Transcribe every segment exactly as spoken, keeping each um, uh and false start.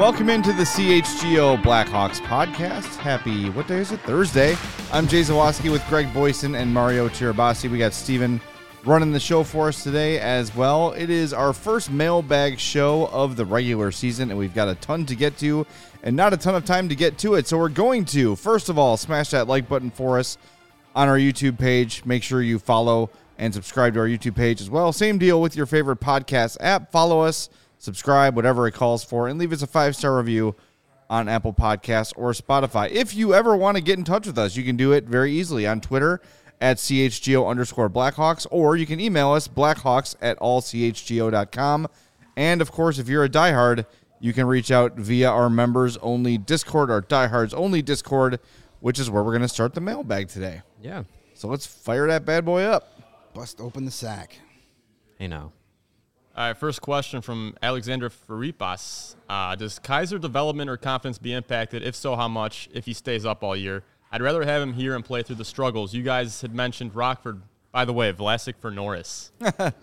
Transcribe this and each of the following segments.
Welcome into the C H G O Blackhawks podcast. Happy, what day is it? Thursday. I'm Jay Zawoski with Greg Boyson and Mario Tirabassi. We got Steven running the show for us today as well. It is our first mailbag show of the regular season, and we've got a ton to get to and not a ton of time to get to it. So we're going to, first of all, smash that like button for us on our YouTube page. Make sure you follow and subscribe to our YouTube page as well. Same deal with your favorite podcast app. Follow us, subscribe, whatever it calls for, and leave us a five-star review on Apple Podcasts or Spotify. If you ever want to get in touch with us, you can do it very easily on Twitter at C H G O underscore Blackhawks, or you can email us, blackhawks at all c h g o dot com. And, of course, if you're a diehard, you can reach out via our members-only Discord, our diehards-only Discord, which is where we're going to start the mailbag today. Yeah. So let's fire that bad boy up. Bust open the sack. Hey, now. All right, first question from Alexander Faripas. Uh, does Kaiser development or confidence be impacted? If so, how much, if he stays up all year? I'd rather have him here and play through the struggles. You guys had mentioned Rockford. By the way, Vlasic for Norris.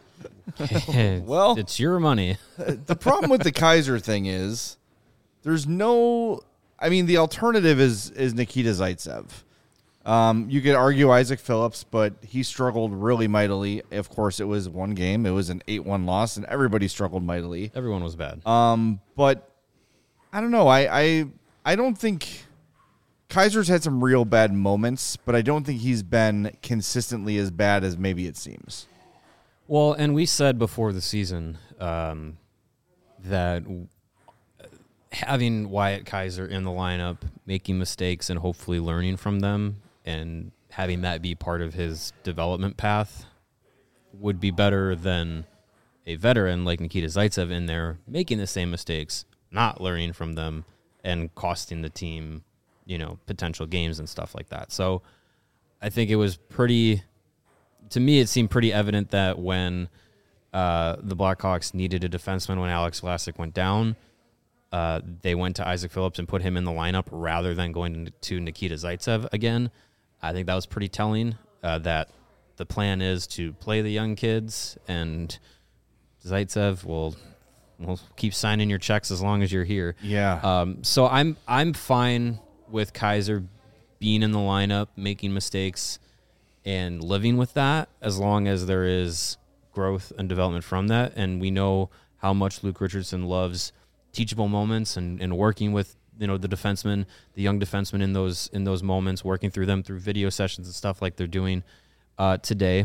Well, it's your money. The problem with the Kaiser thing is there's no – I mean, the alternative is is Nikita Zaitsev. Um, you could argue Isaac Phillips, but he struggled really mightily. Of course, it was one game. It was an eight one loss, and everybody struggled mightily. Everyone was bad. Um, but I don't know. I, I I don't think Kaiser's had some real bad moments, but I don't think he's been consistently as bad as maybe it seems. Well, and we said before the season um, that having Wyatt Kaiser in the lineup, making mistakes and hopefully learning from them, and having that be part of his development path would be better than a veteran like Nikita Zaitsev in there making the same mistakes, not learning from them, and costing the team, you know, potential games and stuff like that. So I think it was pretty, to me, it seemed pretty evident that when uh, the Blackhawks needed a defenseman when Alex Vlasic went down, uh, they went to Isaac Phillips and put him in the lineup rather than going to Nikita Zaitsev again. I think that was pretty telling, uh, that the plan is to play the young kids, and Zaitsev will will keep signing your checks as long as you're here. Yeah. Um, so I'm I'm fine with Kaiser being in the lineup, making mistakes, and living with that as long as there is growth and development from that. And we know how much Luke Richardson loves teachable moments and, and working with, you know, the defensemen, the young defensemen in those in those moments, working through them through video sessions and stuff like they're doing uh, today.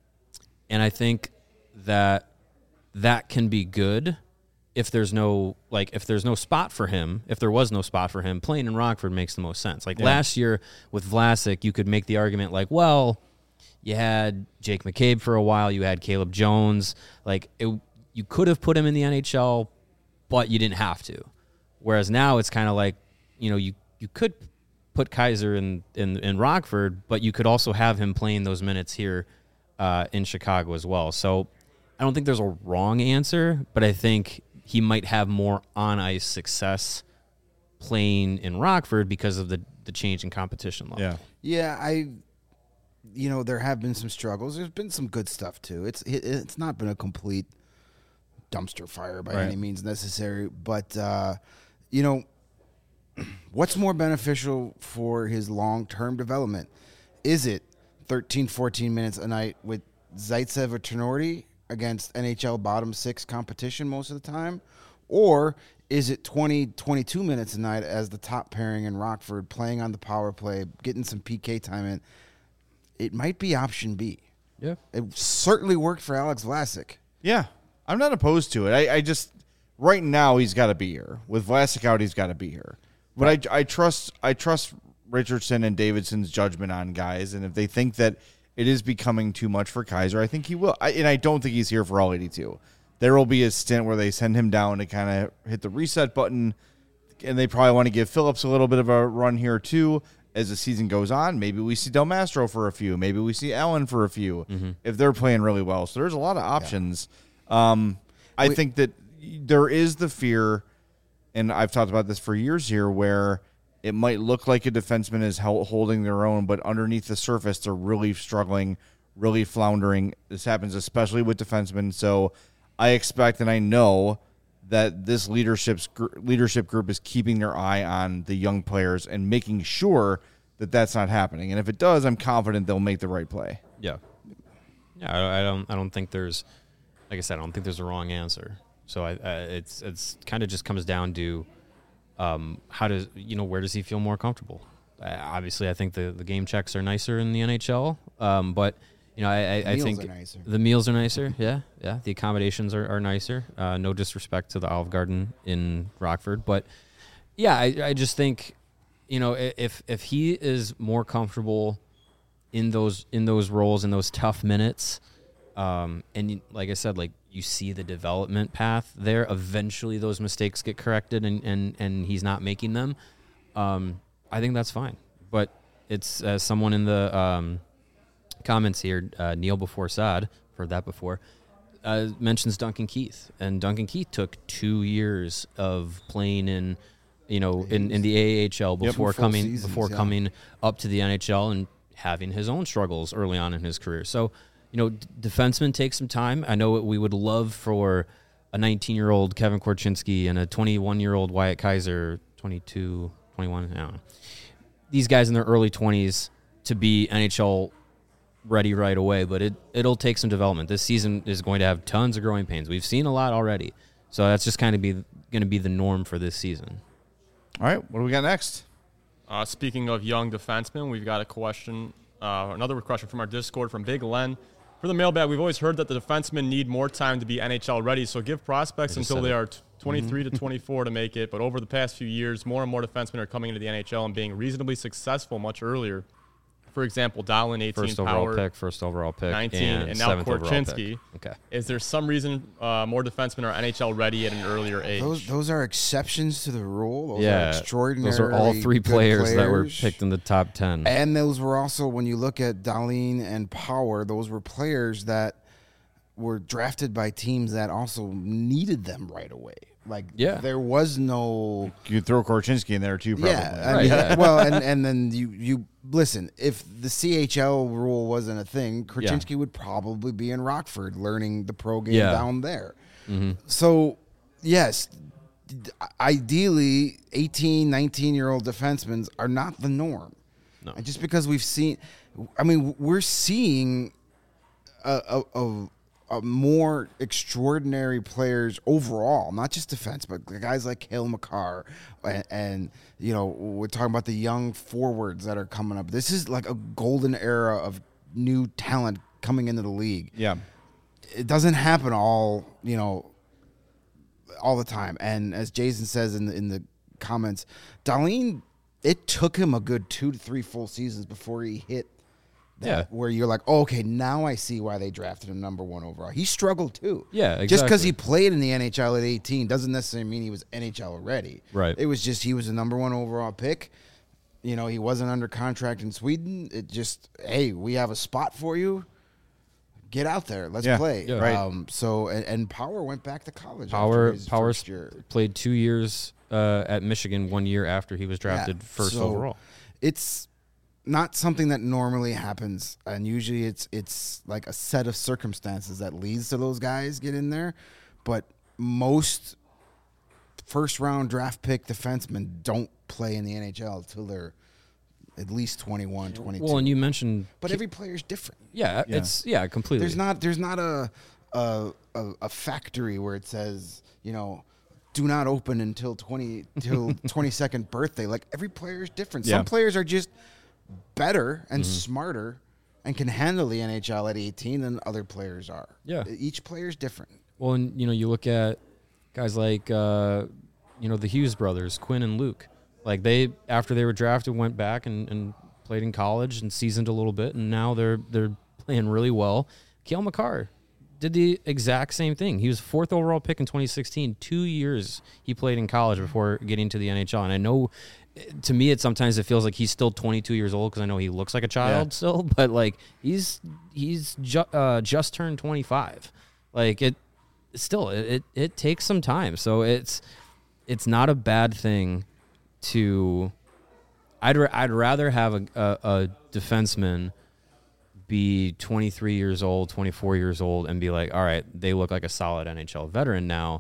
And I think that that can be good if there's no like if there's no spot for him. If there was no spot for him, playing in Rockford makes the most sense. Like yeah. Last year with Vlasic, you could make the argument like, well, you had Jake McCabe for a while, you had Caleb Jones, like it, you could have put him in the N H L, but you didn't have to. Whereas now it's kind of like, you know, you, you could put Kaiser in, in, in Rockford, but you could also have him playing those minutes here uh, in Chicago as well. So I don't think there's a wrong answer, but I think he might have more on-ice success playing in Rockford because of the, the change in competition level. Yeah. Yeah, I, you know, there have been some struggles. There's been some good stuff, too. It's it, it's not been a complete dumpster fire by right. any means necessary, but, uh, you know, what's more beneficial for his long-term development? Is it thirteen, fourteen minutes a night with Zaitsev or Tenorti against N H L bottom six competition most of the time? Or is it twenty, twenty-two minutes a night as the top pairing in Rockford, playing on the power play, getting some P K time in? It might be option B. Yeah. It certainly worked for Alex Vlasic. Yeah. I'm not opposed to it. I, I just right now he's got to be here. With Vlasic out, he's got to be here. But right. I I trust I trust Richardson and Davidson's judgment on guys, and if they think that it is becoming too much for Kaiser, I think he will. I, and I don't think he's here for all eighty-two. There will be a stint where they send him down to kind of hit the reset button, and they probably want to give Phillips a little bit of a run here too as the season goes on. Maybe we see Del Mastro for a few. Maybe we see Allen for a few mm-hmm. if they're playing really well. So there's a lot of options. Yeah. Um, I Wait. think that there is the fear, and I've talked about this for years here, where it might look like a defenseman is holding their own, but underneath the surface, they're really struggling, really floundering. This happens especially with defensemen. So I expect and I know that this leadership's gr- leadership group is keeping their eye on the young players and making sure that that's not happening. And if it does, I'm confident they'll make the right play. Yeah. Yeah, I, I don't I don't think there's, like I said, I don't think there's a wrong answer. So I, I it's it's kind of just comes down to um, how does, you know, where does he feel more comfortable? Uh, obviously, I think the, the game checks are nicer in the N H L, um, but you know, I, I, I Meals think are nicer. the meals are nicer. Yeah, yeah. The accommodations are, are nicer. Uh, no disrespect to the Olive Garden in Rockford, but yeah, I, I just think, you know, i- if if he is more comfortable in those in those roles in those tough minutes, um, and you- like I said, like you see the development path there. Eventually, those mistakes get corrected, and and and he's not making them. Um, I think that's fine. But it's as someone in the um, comments here, uh, Neil before Saad, heard that before, uh, mentions Duncan Keith, and Duncan Keith took two years of playing in, you know, in, in the A H L before full coming seasons, before yeah. coming up to the N H L and having his own struggles early on in his career. So, you know, d- defensemen take some time. I know we would love for a nineteen-year-old Kevin Korchinski and a twenty-one-year-old Wyatt Kaiser, twenty-two, twenty-one, I don't know. These guys in their early twenties to be N H L ready right away, but it, it'll take some development. This season is going to have tons of growing pains. We've seen a lot already. So that's just kind of be going to be the norm for this season. All right, what do we got next? Uh, speaking of young defensemen, we've got a question, uh, another question from our Discord from Big Len. For the mailbag, we've always heard that the defensemen need more time to be N H L ready, so give prospects I just until said they it. are t- twenty-three to twenty-four to make it. But over the past few years, more and more defensemen are coming into the N H L and being reasonably successful much earlier. For example, Dahlen, eighteen, First overall Power, pick, first overall pick, nineteen, and, and now seventh overall pick. Korchinski. Okay. Is there some reason uh, more defensemen are N H L ready at an earlier age? Those those are exceptions to the rule. Those are Yeah, extraordinary. those are all three good players, that were players. picked in the top ten. And those were also, when you look at Dahlen and Power, those were players that were drafted by teams that also needed them right away. Like, Yeah. there was no. You could throw Korchinski in there too, probably. Yeah, I Right, mean, yeah. well, and, and then you you listen. If the C H L rule wasn't a thing, Korchinski would probably be in Rockford learning the pro game Yeah. down there. So, yes, d- ideally, eighteen, nineteen-year-old defensemen are not the norm. No. And just because we've seen, I mean, we're seeing a, a, a, a more extraordinary players overall, not just defense, but guys like Cale Makar, and, and you know, we're talking about the young forwards that are coming up. This is like a golden era of new talent coming into the league. Yeah. It doesn't happen all, you know, all the time. And as Jason says in the, in the comments, Dahlen, it took him a good two to three full seasons before he hit that, Yeah. where you're like, oh, okay, now I see why they drafted him number one overall. He struggled too. Yeah, Just because exactly. he played in the N H L at eighteen doesn't necessarily mean he was N H L ready. Right. It was just he was the number one overall pick. You know, he wasn't under contract in Sweden. It just, hey, we have a spot for you. Get out there. Let's Yeah, play. yeah. Right. Um, so, and, and Power went back to college. Power after his Power first year. played two years uh, at Michigan, one year after he was drafted Yeah, first so overall. It's not something that normally happens, and usually it's it's like a set of circumstances that leads to those guys get in there. But most first round draft pick defensemen don't play in the N H L until they're at least twenty-one, twenty-two. Well, and you mentioned, but every player's different. yeah, Yeah. it's yeah, completely. There's not there's not a a, a a factory where it says, you know, do not open until twenty till twenty-second birthday. Like, every player is different. Yeah. Some players are just better and smarter and can handle the N H L at eighteen than other players are. Yeah. Each player is different. Well, and you know, you look at guys like uh, you know, the Hughes brothers, Quinn and Luke. Like, they, after they were drafted, went back and, and played in college and seasoned a little bit, and now they're they're playing really well. Cale Makar did the exact same thing. He was fourth overall pick in twenty sixteen. Two years he played in college before getting to the N H L. And I know, to me, it sometimes it feels like he's still twenty-two years old because I know he looks like a child Yeah. still, but like he's he's ju- uh, just turned twenty-five. Like, it still it, it it takes some time. So it's it's not a bad thing to. I'd ra- I'd rather have a, a a defenseman be twenty-three years old, twenty-four years old, and be like, all right, they look like a solid N H L veteran now,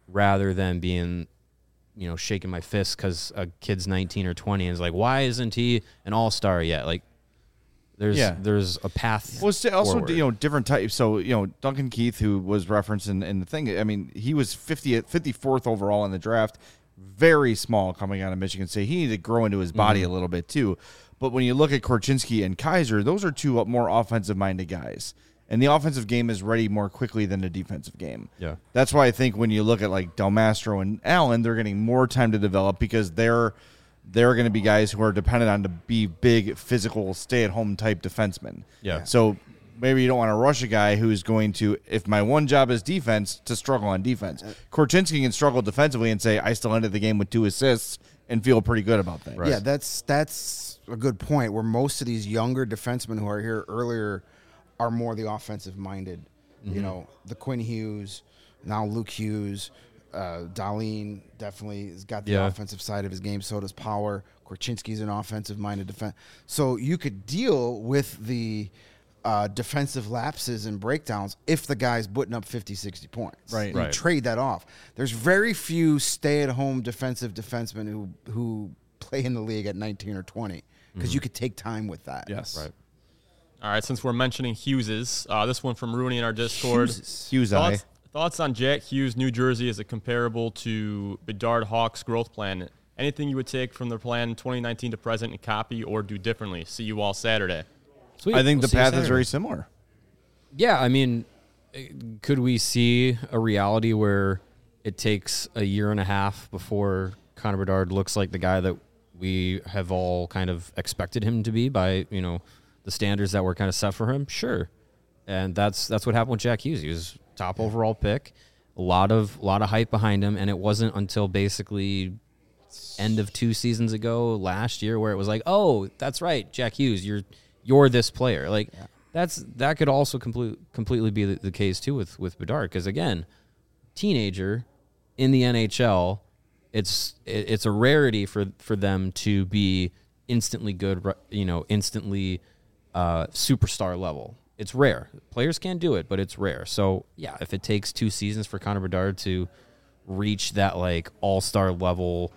rather than being, you know, shaking my fist because a kid's nineteen or twenty and is like, why isn't he an all-star yet? Like, there's Yeah. there's a path. Well, it's also forward. you know different types. So you know Duncan Keith, who was referenced in, in the thing. I mean, he was fiftieth, fifty-fourth overall in the draft. Very small coming out of Michigan State. He needed to grow into his body Mm-hmm. a little bit too. But when you look at Korchinski and Kaiser, those are two more offensive-minded guys. And the offensive game is ready more quickly than the defensive game. Yeah. That's why I think when you look at like Del Mastro and Allen, they're getting more time to develop because they're they're going to be guys who are dependent on to be big, physical, stay-at-home type defensemen. Yeah. So maybe you don't want to rush a guy who's going to, if my one job is defense, to struggle on defense. Korchinski can struggle defensively and say, I still ended the game with two assists and feel pretty good about that. Yeah, that's that's a good point. Where most of these younger defensemen who are here earlier are more the offensive minded. Mm-hmm. You know, the Quinn Hughes, now Luke Hughes, uh, Darlene definitely has got the Yeah. offensive side of his game. So does Power. Korchinski's an offensive minded defense. So you could deal with the uh, defensive lapses and breakdowns if the guy's putting up fifty, sixty points. Right. You Right. trade that off. There's very few stay-at-home defensive defensemen who who play in the league at nineteen or twenty because you could take time with that. Yes. Right. All right, since we're mentioning Hugheses, uh, this one from Rooney in our Discord. Hughes eye. Thoughts, thoughts on Jack Hughes, New Jersey, is it comparable to Bedard Hawks' growth plan? Anything you would take from their plan twenty nineteen to present and copy or do differently? See you all Saturday. Sweet. I think We'll the see you path is Saturday. very similar. Yeah, I mean, eh, could we see a reality where it takes a year and a half before Connor Bedard looks like the guy that we have all kind of expected him to be by, you know, the standards that were kind of set for him? Sure. And that's that's what happened with Jack Hughes. He was top overall pick, a lot of a lot of hype behind him, and it wasn't until basically end of two seasons ago last year where it was like, oh, that's right, Jack Hughes, you're you're this player. Like that's that could also complete, completely be the, the case too with with Bedard, because again, teenager in the N H L, it's it, it's a rarity for for them to be instantly good, you know, instantly uh, superstar level. It's rare. Players can do it, but it's rare. So yeah, if it takes two seasons for Connor Bedard to reach that like all-star level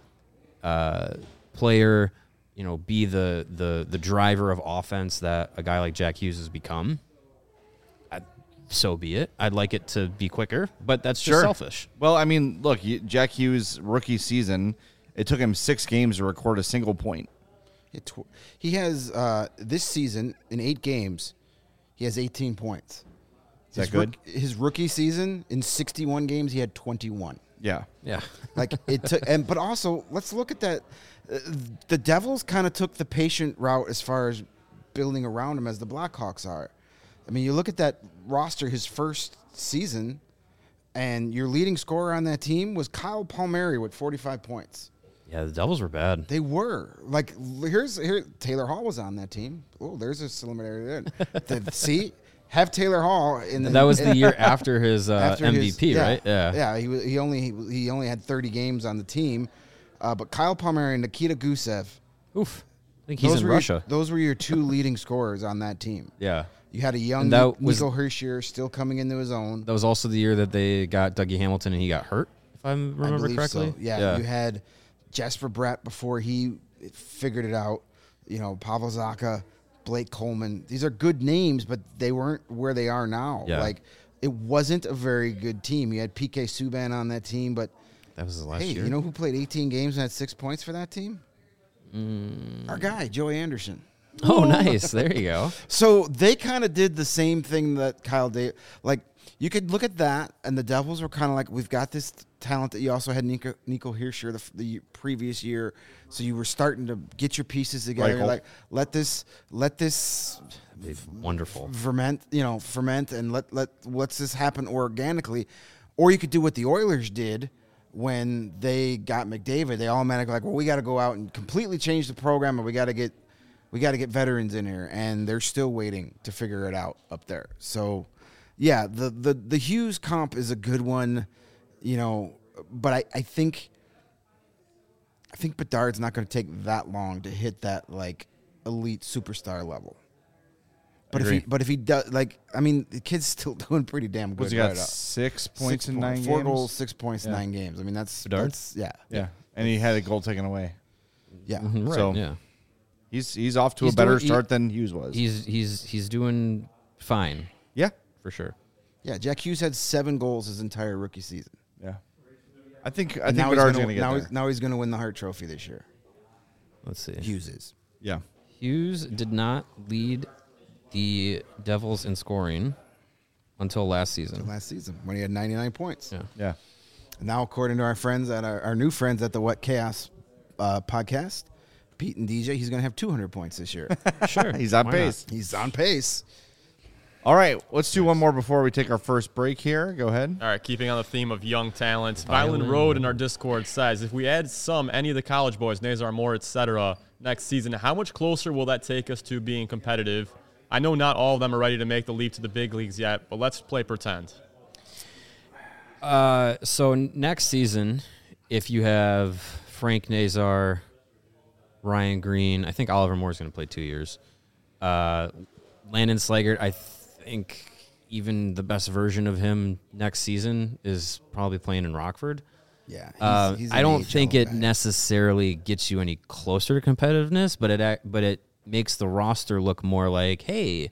uh, player, you know, be the the the driver of offense that a guy like Jack Hughes has become, I, so be it. I'd like it to be quicker, but that's just Sure. selfish. Well, I mean, look, you- Jack Hughes' rookie season, it took him six games to record a single point. It tw- he has uh, this season in eight games, he has eighteen points. Is that his good? rook- his rookie season in sixty-one games, he had twenty-one. Yeah. Yeah. Like it took, and but also let's look at that. Uh, the Devils kind of took the patient route as far as building around him as the Blackhawks are. I mean, you look at that roster, his first season, and your leading scorer on that team was Kyle Palmieri with forty-five points. Yeah, the Devils were bad. They were like here's here Taylor Hall was on that team. Oh, there's a similarity there. The- See, have Taylor Hall in the, That was the in- year after his uh, after M V his- P, yeah, right? Yeah. yeah. He was, he only he only had thirty games on the team, uh, but Kyle Palmieri and Nikita Gusev. Oof. I think he's those in were Russia. Your, those were your two leading scorers on that team. Yeah. You had a young And that Nico was- Hershier still coming into his own. That was also the year that they got Dougie Hamilton and he got hurt, if I I remember believe correctly. so. Yeah, you had Jesper Brett before he figured it out. You know, Pavel Zacha, Blake Coleman. These are good names, but they weren't where they are now. Yeah. Like, it wasn't a very good team. You had P K Subban on that team, but That was his last hey, year. you know who played eighteen games and had six points for that team? Mm. Our guy, Joey Anderson. Oh, nice. There you go. So they kind of did the same thing that Kyle did. Like, you could look at that, and the Devils were kind of like, we've got this talent that you also had Nico, Nico Hershier the, the previous year. So you were starting to get your pieces together. Reichel. Like, let this, let this Wonderful. ferment, you know, ferment, and let let let's this happen organically. Or you could do what the Oilers did when they got McDavid. They automatically like, well, we got to go out and completely change the program, and we got to get we got to get veterans in here, and they're still waiting to figure it out up there. So, yeah, the the the Hughes comp is a good one, you know, but I I think I think Bedard's not going to take that long to hit that like elite superstar level. But if agree. he, but if he does, like, I mean, the kid's still doing pretty damn good. What's he got? right up. Six points Six in point- nine four games. goals, six points, Yeah. nine games. I mean, that's Bedard? that's yeah, Yeah, and he had a goal taken away. yeah. Mhm, right. So- yeah. He's he's off to He's a better doing- he- start than Hughes was. He's he's he's doing fine Yeah, for sure. Yeah, Jack Hughes had seven goals his entire rookie season. yeah. I think I And think now he's Bedard's gonna, going to get now there. he's, now he's going to win the Hart Trophy this year. Let's see. Hughes is. Yeah, Hughes did not lead the Devils in scoring until last season. Last season when he had ninety-nine points. Yeah. yeah. Now, according to our friends at our, our new friends at the What Chaos uh, podcast, Pete and D J, he's going to have two hundred points this year. Sure. He's on Why pace. He's on pace. All right, let's do one more before we take our first break here. Go ahead. All right, keeping on the theme of young talent, Violin. Violin Road in our Discord says, if we add some, any of the college boys, Nazar Moore, et cetera, next season, how much closer will that take us to being competitive? I know not all of them are ready to make the leap to the big leagues yet, but let's play pretend. Uh, so next season, if you have Frank Nazar, Ryan Green, I think Oliver Moore is going to play two years. Uh, Landon Slaggert, I think even the best version of him next season is probably playing in Rockford. Yeah. He's, Uh, he's I an don't A H L think it guy. necessarily gets you any closer to competitiveness, but it ac- but it makes the roster look more like, hey,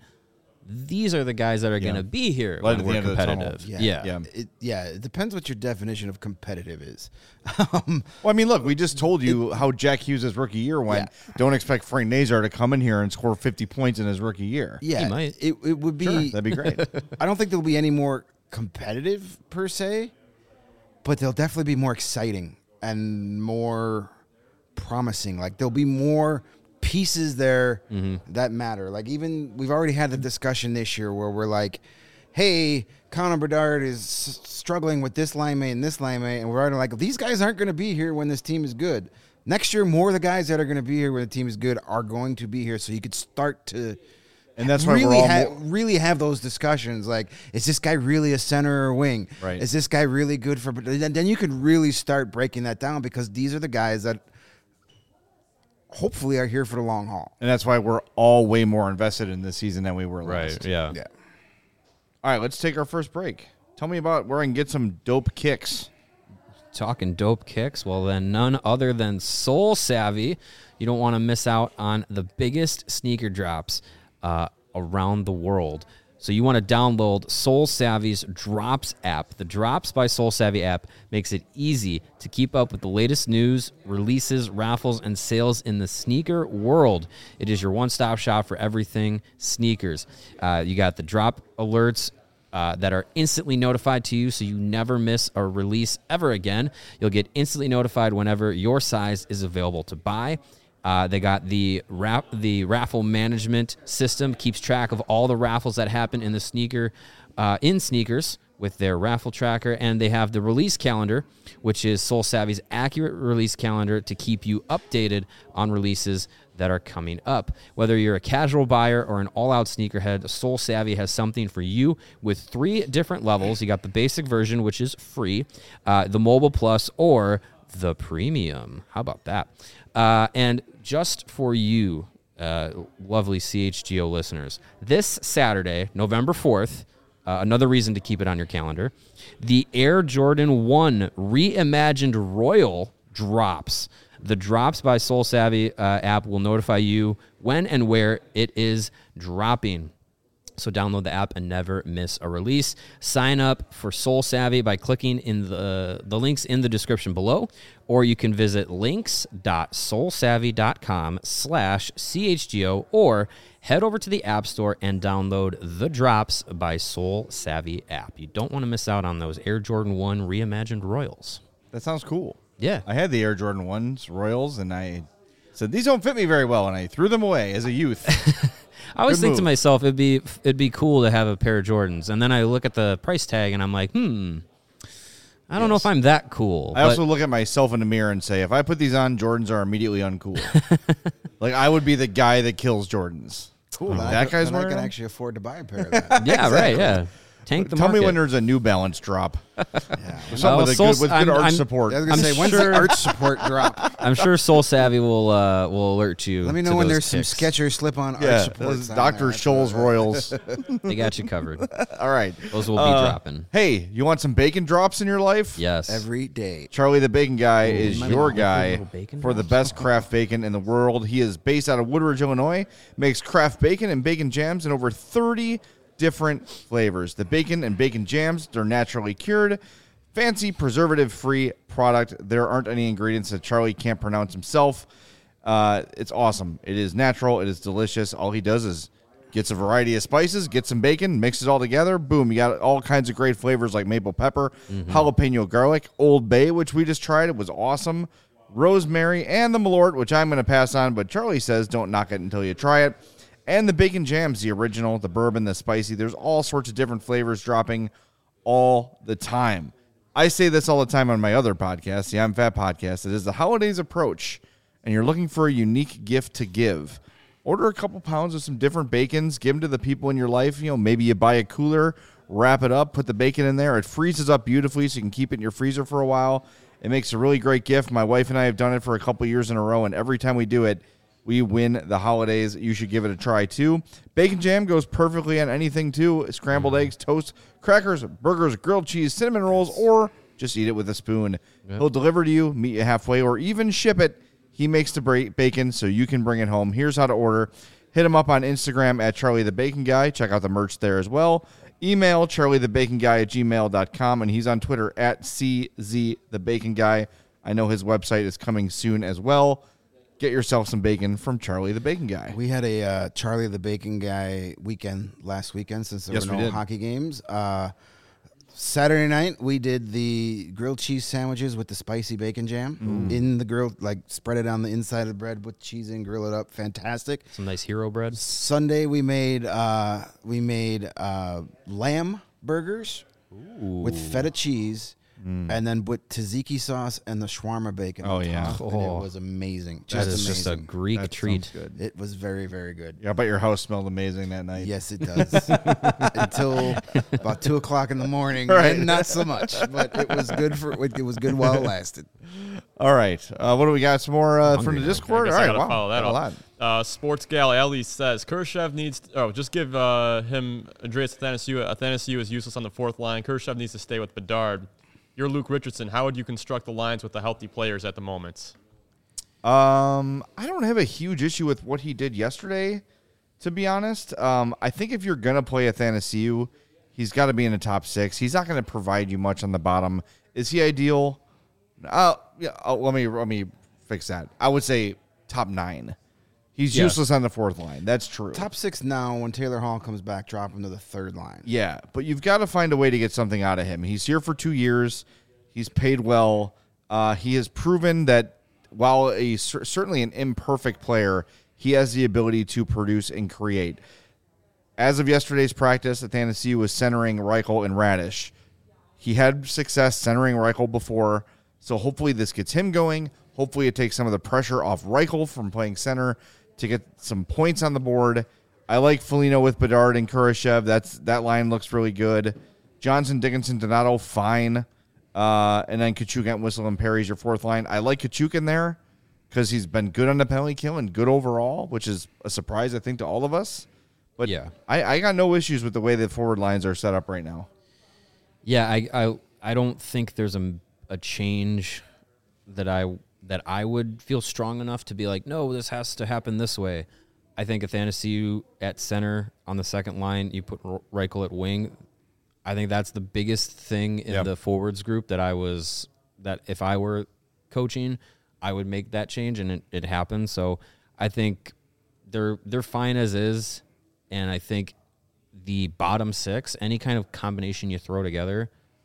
these are the guys that are going to be here Light when at the we're end of the tunnel. competitive. Yeah. Yeah. Yeah. It, yeah. It depends what your definition of competitive is. um, Well, I mean, look, we just told you how Jack Hughes' rookie year went. Yeah. Don't expect Frank Nazar to come in here and score fifty points in his rookie year. yeah. might. It, it would be. Sure, that'd be great. I don't think there'll be any more competitive per se, but they'll definitely be more exciting and more promising. Like there'll be more pieces there that matter. Like even we've already had the discussion this year where we're like, hey, Connor Bedard is s- struggling with this line mate and this line mate, and we're already like, these guys aren't going to be here when this team is good. Next year, more of the guys that are going to be here when the team is good are going to be here, so you could start to And that's why really we're all ha- more- really have those discussions. Like, is this guy really a center or a wing? Right. Is this guy really good for? Then then you could really start breaking that down because these are the guys that hopefully are here for the long haul. And that's why we're all way more invested in this season than we were last. Right. Yeah. Yeah. All right, let's take our first break. Tell me about where I can get some dope kicks. Talking dope kicks, well, then none other than Soul Savvy. You don't want to miss out on the biggest sneaker drops uh, around the world. So you want to download Soul Savvy's Drops app. The Drops by Soul Savvy app makes it easy to keep up with the latest news, releases, raffles, and sales in the sneaker world. It is your one-stop shop for everything sneakers. Uh, you got the drop alerts, Uh, that are instantly notified to you so you never miss a release ever again. You'll get instantly notified whenever your size is available to buy. Uh, they got the rap, the raffle management system, keeps track of all the raffles that happen in the sneaker, uh, in sneakers with their raffle tracker. And they have the release calendar, which is Soul Savvy's accurate release calendar to keep you updated on releases that are coming up. Whether you're a casual buyer or an all-out sneakerhead, Soul Savvy has something for you with three different levels. You got the basic version, which is free, uh, the Mobile Plus, or the Premium. How about that? Uh, and just for you, uh, lovely C H G O listeners, this Saturday, November fourth, uh, another reason to keep it on your calendar, the Air Jordan one Reimagined Royal drops. The Drops by Soul Savvy uh, app will notify you when and where it is dropping. So download the app and never miss a release. Sign up for Soul Savvy by clicking in the, the links in the description below, or you can visit links.soulsavvy.com slash CHGO, or head over to the App Store and download the Drops by Soul Savvy app. You don't want to miss out on those Air Jordan one Reimagined Royals. That sounds cool. Yeah. I had the Air Jordan ones, Royals, and I said, these don't fit me very well, and I threw them away as a youth. I always Good think to move. myself, it'd be it'd be cool to have a pair of Jordans, and then I look at the price tag and I'm like, hmm, I don't know Yes. if I'm that cool. I but- also look at myself in the mirror and say, if I put these on, Jordans are immediately uncool. Like, I would be the guy that kills Jordans. Cool. That I could- guy's then I wearing can them? actually afford to buy a pair of that. yeah, right, yeah. tank the Tell market. me when there's a New Balance drop. Yeah. Something Well, with, a Soul- good, with good I'm- arch I'm- support. I was gonna I'm say, when's sure- the arch support drop? I'm sure Soul Savvy will uh, will alert you. Let me know to when those there's some kicks. Skechers slip-on Yeah, arch supports. those on Doctor there. Scholl's Royals. They got you covered. All right. Those will be Uh, dropping. Hey, you want some bacon drops in your life? Yes. Every day. Charlie the Bacon Guy is my your mouth, guy little bacon for the drops. best craft bacon in the world. He is based out of Woodridge, Illinois, makes craft bacon and bacon jams in over thirty different flavors. The bacon and bacon jams, they're naturally cured, fancy preservative-free product. There aren't any ingredients that Charlie can't pronounce himself. Uh, it's awesome. It is natural. It is delicious. All he does is gets a variety of spices, gets some bacon, mixes it all together. Boom, you got all kinds of great flavors like maple pepper, jalapeno garlic, Old Bay, which we just tried. It was awesome. Rosemary, and the Malort, which I'm going to pass on, but Charlie says don't knock it until you try it. And the bacon jams, the original, the bourbon, the spicy. There's all sorts of different flavors dropping all the time. I say this all the time on my other podcast, the I'm Fat podcast. It is the holidays approach, and you're looking for a unique gift to give. Order a couple pounds of some different bacons, give them to the people in your life. You know, maybe you buy a cooler, wrap it up, put the bacon in there. It freezes up beautifully so you can keep it in your freezer for a while. It makes a really great gift. My wife and I have done it for a couple years in a row, and every time we do it, we win the holidays. You should give it a try, too. Bacon jam goes perfectly on anything, too. Scrambled eggs, toast, crackers, burgers, grilled cheese, cinnamon rolls, or just eat it with a spoon. Yep. He'll deliver to you, meet you halfway, or even ship it. He makes the bra- bacon so you can bring it home. Here's how to order. Hit him up on Instagram at Charlie the Bacon Guy. Check out the merch there as well. Email charliethebaconguy at gmail dot com, and he's on Twitter at C Z the Bacon Guy. I know his website is coming soon as well. Get yourself some bacon from Charlie the Bacon Guy. We had a uh, Charlie the Bacon Guy weekend last weekend since there Yes, were we no did. hockey games. Uh, Saturday night, we did the grilled cheese sandwiches with the spicy bacon jam in the grill, like spread it on the inside of the bread with cheese and grill it up. Fantastic. Some nice hero bread. Sunday, we made uh, we made uh, lamb burgers with feta cheese. And then with tzatziki sauce and the shawarma bacon. Oh, on yeah. top, and Oh. it was amazing. That Just is just a amazing. Greek That treat. sounds good. It was very, very good. Yeah, I bet your house smelled amazing that night. Yes, it does. Until about two o'clock in the morning, Right. and not so much. But it was good for it was good while it lasted. All right. Uh, what do we got? Some more uh, from hungry the now. Discord? I guess All I right. gotta Wow. follow that got a up. lot. Uh, Sports Gal Ellie says Khrushchev needs. Oh, just give uh, him Andreas Athanasiou. Athanasiou is useless on the fourth line. Khrushchev needs to stay with Bedard. You're Luke Richardson. How would you construct the lines with the healthy players at the moment? Um, I don't have a huge issue with what he did yesterday, to be honest. Um, I think if you're gonna play Athanasiou, he's got to be in the top six. He's not going to provide you much on the bottom. Is he ideal? Uh, yeah. Oh, let me let me fix that. I would say top nine. He's Yeah. useless on the fourth line. That's true. Top six now. When Taylor Hall comes back, drop him to the third line. Yeah, but you've got to find a way to get something out of him. He's here for two years. He's paid well. Uh, he has proven that while a cer- certainly an imperfect player, he has the ability to produce and create. As of yesterday's practice, Athanasiou was centering Reichel and Radish. He had success centering Reichel before, so hopefully this gets him going. Hopefully it takes some of the pressure off Reichel from playing center to get some points on the board. I like Foligno with Bedard and Khrushchev. That's that line looks really good. Johnson, Dickinson, Donato, fine. Uh, and then Kachuk, Entwistle, and Perry's your fourth line. I like Kachuk in there because he's been good on the penalty kill and good overall, which is a surprise, I think, to all of us. But Yeah. I, I got no issues with the way the forward lines are set up right now. Yeah, I, I I don't think there's a, a change that I that I would feel strong enough to be like, no, this has to happen this way. I think Athanasiou at center on the second line, you put R- Reichel at wing. I think that's the biggest thing in Yep. the forwards group that I was that if I were coaching, I would make that change, and it, it happened. So I think they're they're fine as is, and I think the bottom six, any kind of combination you throw together,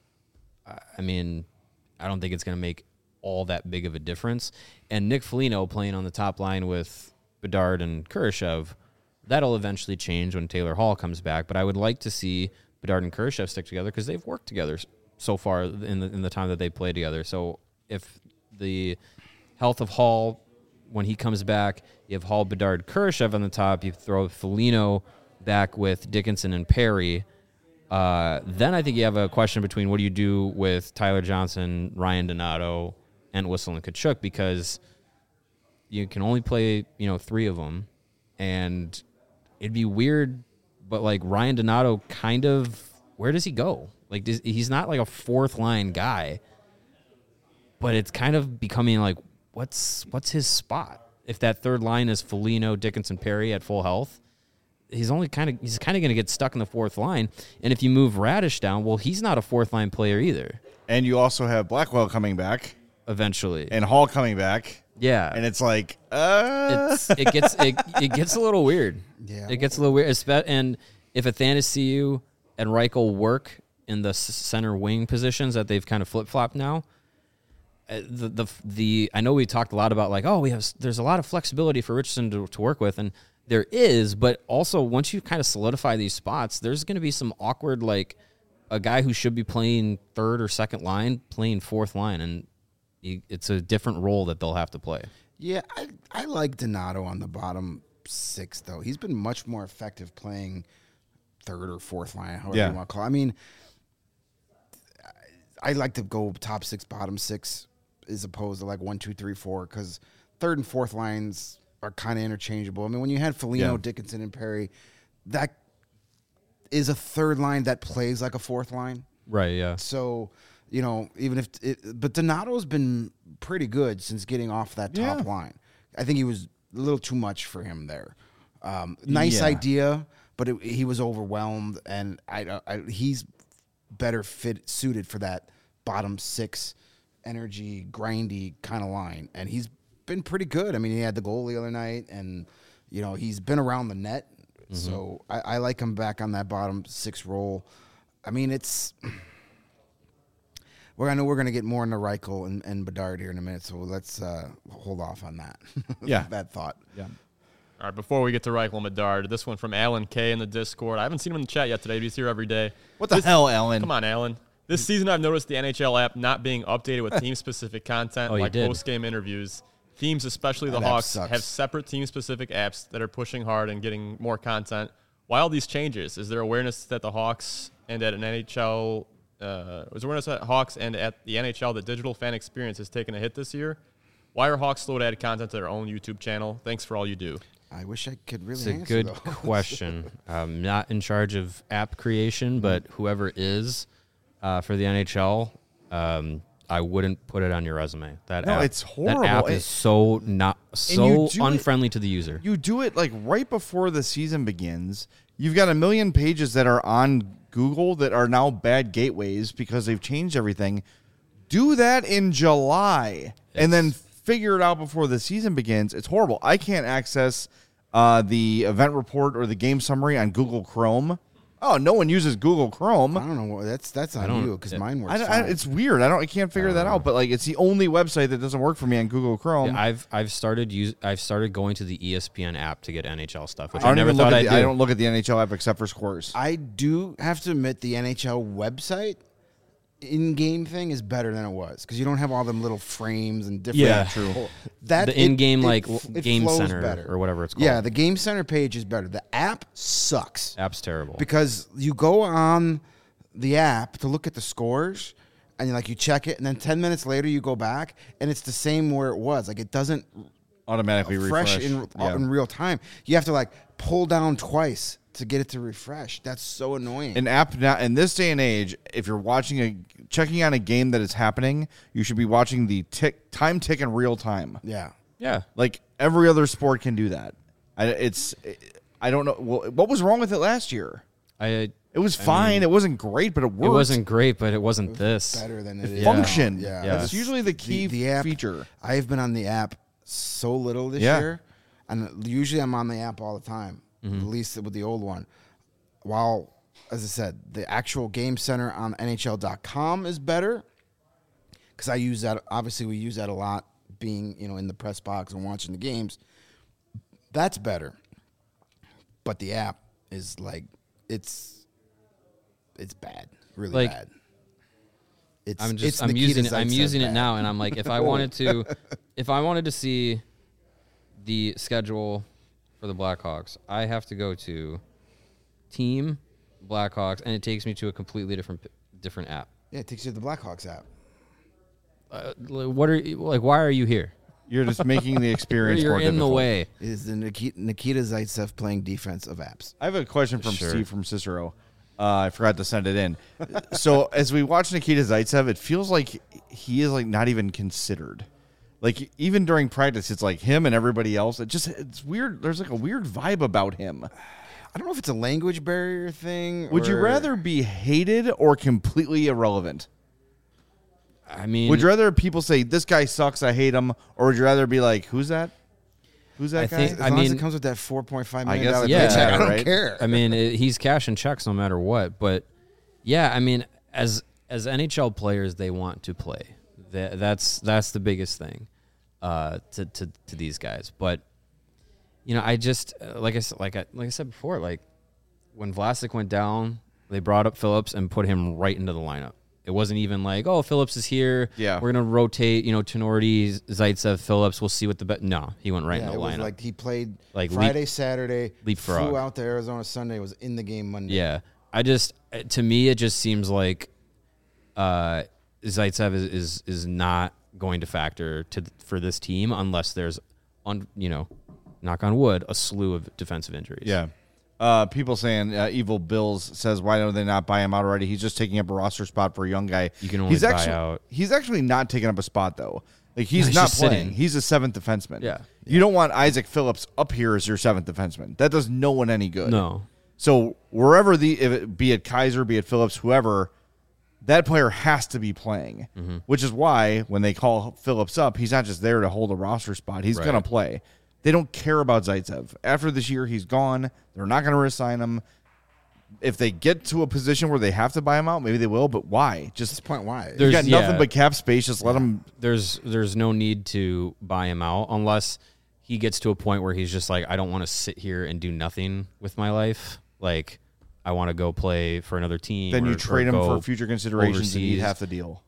I- I mean, I don't think it's going to make all that big of a difference. And Nick Foligno playing on the top line with Bedard and Khrushchev, that'll eventually change when Taylor Hall comes back. But I would like to see Bedard and Khrushchev stick together because they've worked together so far in the in the time that they played together. So if the health of Hall, when he comes back, you have Hall, Bedard, Khrushchev on the top, you throw Foligno back with Dickinson and Perry, Uh, then I think you have a question between what do you do with Tyler Johnson, Ryan Donato, and Whistle and Kachuk, because you can only play, you know, three of them, and it'd be weird. But like Ryan Donato, kind of, where does he go? Like does, he's not like a fourth line guy, but it's kind of becoming like, what's what's his spot? If that third line is Foligno, Dickinson, Perry at full health, he's only kind of he's kind of going to get stuck in the fourth line. And if you move Radish down, well, he's not a fourth line player either. And you also have Blackwell coming back Eventually, and Hall coming back. yeah, And it's like, uh, it's it gets it, it gets a little weird. Yeah. It gets a little weird. Espe- And if Athanasiou and Reichel work in the s- center wing positions that they've kind of flip flopped now, uh, the the the I know we talked a lot about like, oh, we have there's a lot of flexibility for Richardson to, to work with, and there is, but also once you kind of solidify these spots, there's going to be some awkward, like a guy who should be playing third or second line playing fourth line, and you, it's a different role that they'll have to play. Yeah, I, I like Donato on the bottom six, though. He's been much more effective playing third or fourth line, however Yeah. you want to call it. I mean, I, I like to go top six, bottom six, as opposed to like one, two, three, four, because third and fourth lines are kind of interchangeable. I mean, when you had Foligno, Yeah. Dickinson, and Perry, that is a third line that plays like a fourth line. Right, yeah. So, you know, even if it, but Donato's been pretty good since getting off that top Yeah. line. I think he was a little too much for him there. Um, nice Yeah. idea, but it, he was overwhelmed, and I, I he's better fit suited for that bottom six energy, grindy kind of line, and he's been pretty good. I mean, he had the goal the other night, and you know he's been around the net, so I, I like him back on that bottom six role. I mean, it's. Well, I know we're going to get more into Reichel and, and Bedard here in a minute, so let's uh, hold off on that. Yeah. that thought. yeah. All right, before we get to Reichel and Bedard, this one from Alan K in the Discord. I haven't seen him in the chat yet today, but he's here every day. What the hell, Alan? Come on, Alan. This season, I've noticed the N H L app not being updated with team-specific content, Oh, you like did. post-game interviews. Teams, especially the That app Hawks, sucks. have separate team-specific apps that are pushing hard and getting more content. Why all these changes? Is there awareness that the Hawks and at an N H L uh, is there awareness at Hawks and at the N H L that digital fan experience has taken a hit this year? Why are Hawks slow to add content to their own YouTube channel? Thanks for all you do. I wish I could really It's a answer good those. question. I'm not in charge of app creation, but whoever is uh, for the N H L, um, I wouldn't put it on your resume. That No, app, it's horrible. That app It- is so not you so do it- unfriendly to the user. You do it like right before the season begins. You've got a million pages that are on Google that are now bad gateways because they've changed everything. Do that in July and then figure it out before the season begins. It's horrible. I can't access uh, the event report or the game summary on Google Chrome. Oh, no one uses Google Chrome. I don't know. what- That's that's on don't- you because it- mine works. I, I, fine. it's weird. I don't. I can't figure that out. But like, it's the only website that doesn't work for me on Google Chrome. Yeah, I've I've started use I've started going to the E S P N app to get N H L stuff, which I I, don't never even look thought at I'd the, do. I don't look at the N H L app except for scores. I do have to admit the N H L website in-game thing is better than it was because you don't have all them little frames and different. Yeah, true. That The it- in-game, it like, f- it Game flows Center better. or whatever it's called. Yeah, the Game Center page is better. The app sucks. App's terrible. Because you go on the app to look at the scores and you like you check it and then ten minutes later you go back and it's the same where it was. Like it doesn't Automatically refresh, refresh. in, Yeah. in real time. You have to like pull down twice to get it to refresh. That's so annoying. An app now in this day and age, if you're watching a checking on a game that is happening, you should be watching the tick time tick in real time. yeah. yeah, Like every other sport can do that. I, it's I don't know well, what was wrong with it last year. I It was fine. it wasn't great, but it worked. it wasn't great, but it wasn't this. Better than it It is. functioned. Yeah. Yeah. That's usually the key the, the app, feature. I've been on the app so little this Yeah. year, and usually I'm on the app all the time. Mm-hmm. At least with the old one. While, as I said, the actual Game Center on N H L dot com is better because I use that. Obviously, we use that a lot, being you know in the press box and watching the games. That's better, but the app is like it's it's bad, really Like, bad. It's, I'm it's just I'm Nikita using it. I'm Zaitsev using it bad. now, and I'm like, if I wanted to, if I wanted to see the schedule for the Blackhawks, I have to go to team Blackhawks, and it takes me to a completely different different app. Yeah, it takes you to the Blackhawks app. Uh, what are you, like? Why are you here? You're just making the experience You're more in the difficult. way. It is the Nikita, Nikita Zaitsev playing defense of apps. I have a question from Sure. Steve from Cicero. Uh, I forgot to send it in. So as we watch Nikita Zaitsev, it feels like he is like not even considered. Like even during practice, it's like him and everybody else. It just it's weird. There's like a weird vibe about him. I don't know if it's a language barrier thing. Would you or- rather be hated or completely irrelevant? I mean, Would you rather people say this guy sucks, I hate him, or would you rather be like, who's that? Who's that I guy? think- As I long as mean- it comes with that four point five I million guess dollar it's yeah, paycheck, I don't right? care. I mean, it, he's cashing checks no matter what. But yeah, I mean, as as N H L players, they want to play. That, that's that's the biggest thing uh, to, to to these guys. But you know, I just uh, like I s- like I like I said before, like when Vlasic went down, they brought up Phillips and put him right into the lineup. It wasn't even like, oh, Phillips is here. Yeah. We're gonna rotate. You know, Tenorti, Zaitsev, Phillips. We'll see what the bet. No, he went right Yeah, in it the was lineup. like he played Like leap- Friday, Saturday, leapfrog. flew out to Arizona Sunday, was in the game Monday. Yeah, I just to me it just seems like uh, Zaitsev is, is is not going to factor to th- for this team unless there's on you know, knock on wood, a slew of defensive injuries. Yeah. Uh, people saying uh, Evil Bills says, why don't they not buy him out already? He's just taking up a roster spot for a young guy. You can only he's buy actually, out- He's actually not taking up a spot, though. Like He's No, he's not just playing. sitting. He's a seventh defenseman. Yeah. You don't want Isaac Phillips up here as your seventh defenseman. That does no one any good. No. So wherever the, if it, be it Kaiser, be it Phillips, whoever, that player has to be playing, Mm-hmm. which is why when they call Phillips up, he's not just there to hold a roster spot. He's Right. going to play. They don't care about Zaitsev. After this year, he's gone. They're not going to resign him. If they get to a position where they have to buy him out, maybe they will, but why? At Just this point, why? you There's- got nothing yeah. but cap space. Just let him. There's there's no need to buy him out unless he gets to a point where he's just like, I don't want to sit here and do nothing with my life. Like, I want to go play for another team. Then or- you or trade him go for future considerations and eat overseas. half the deal.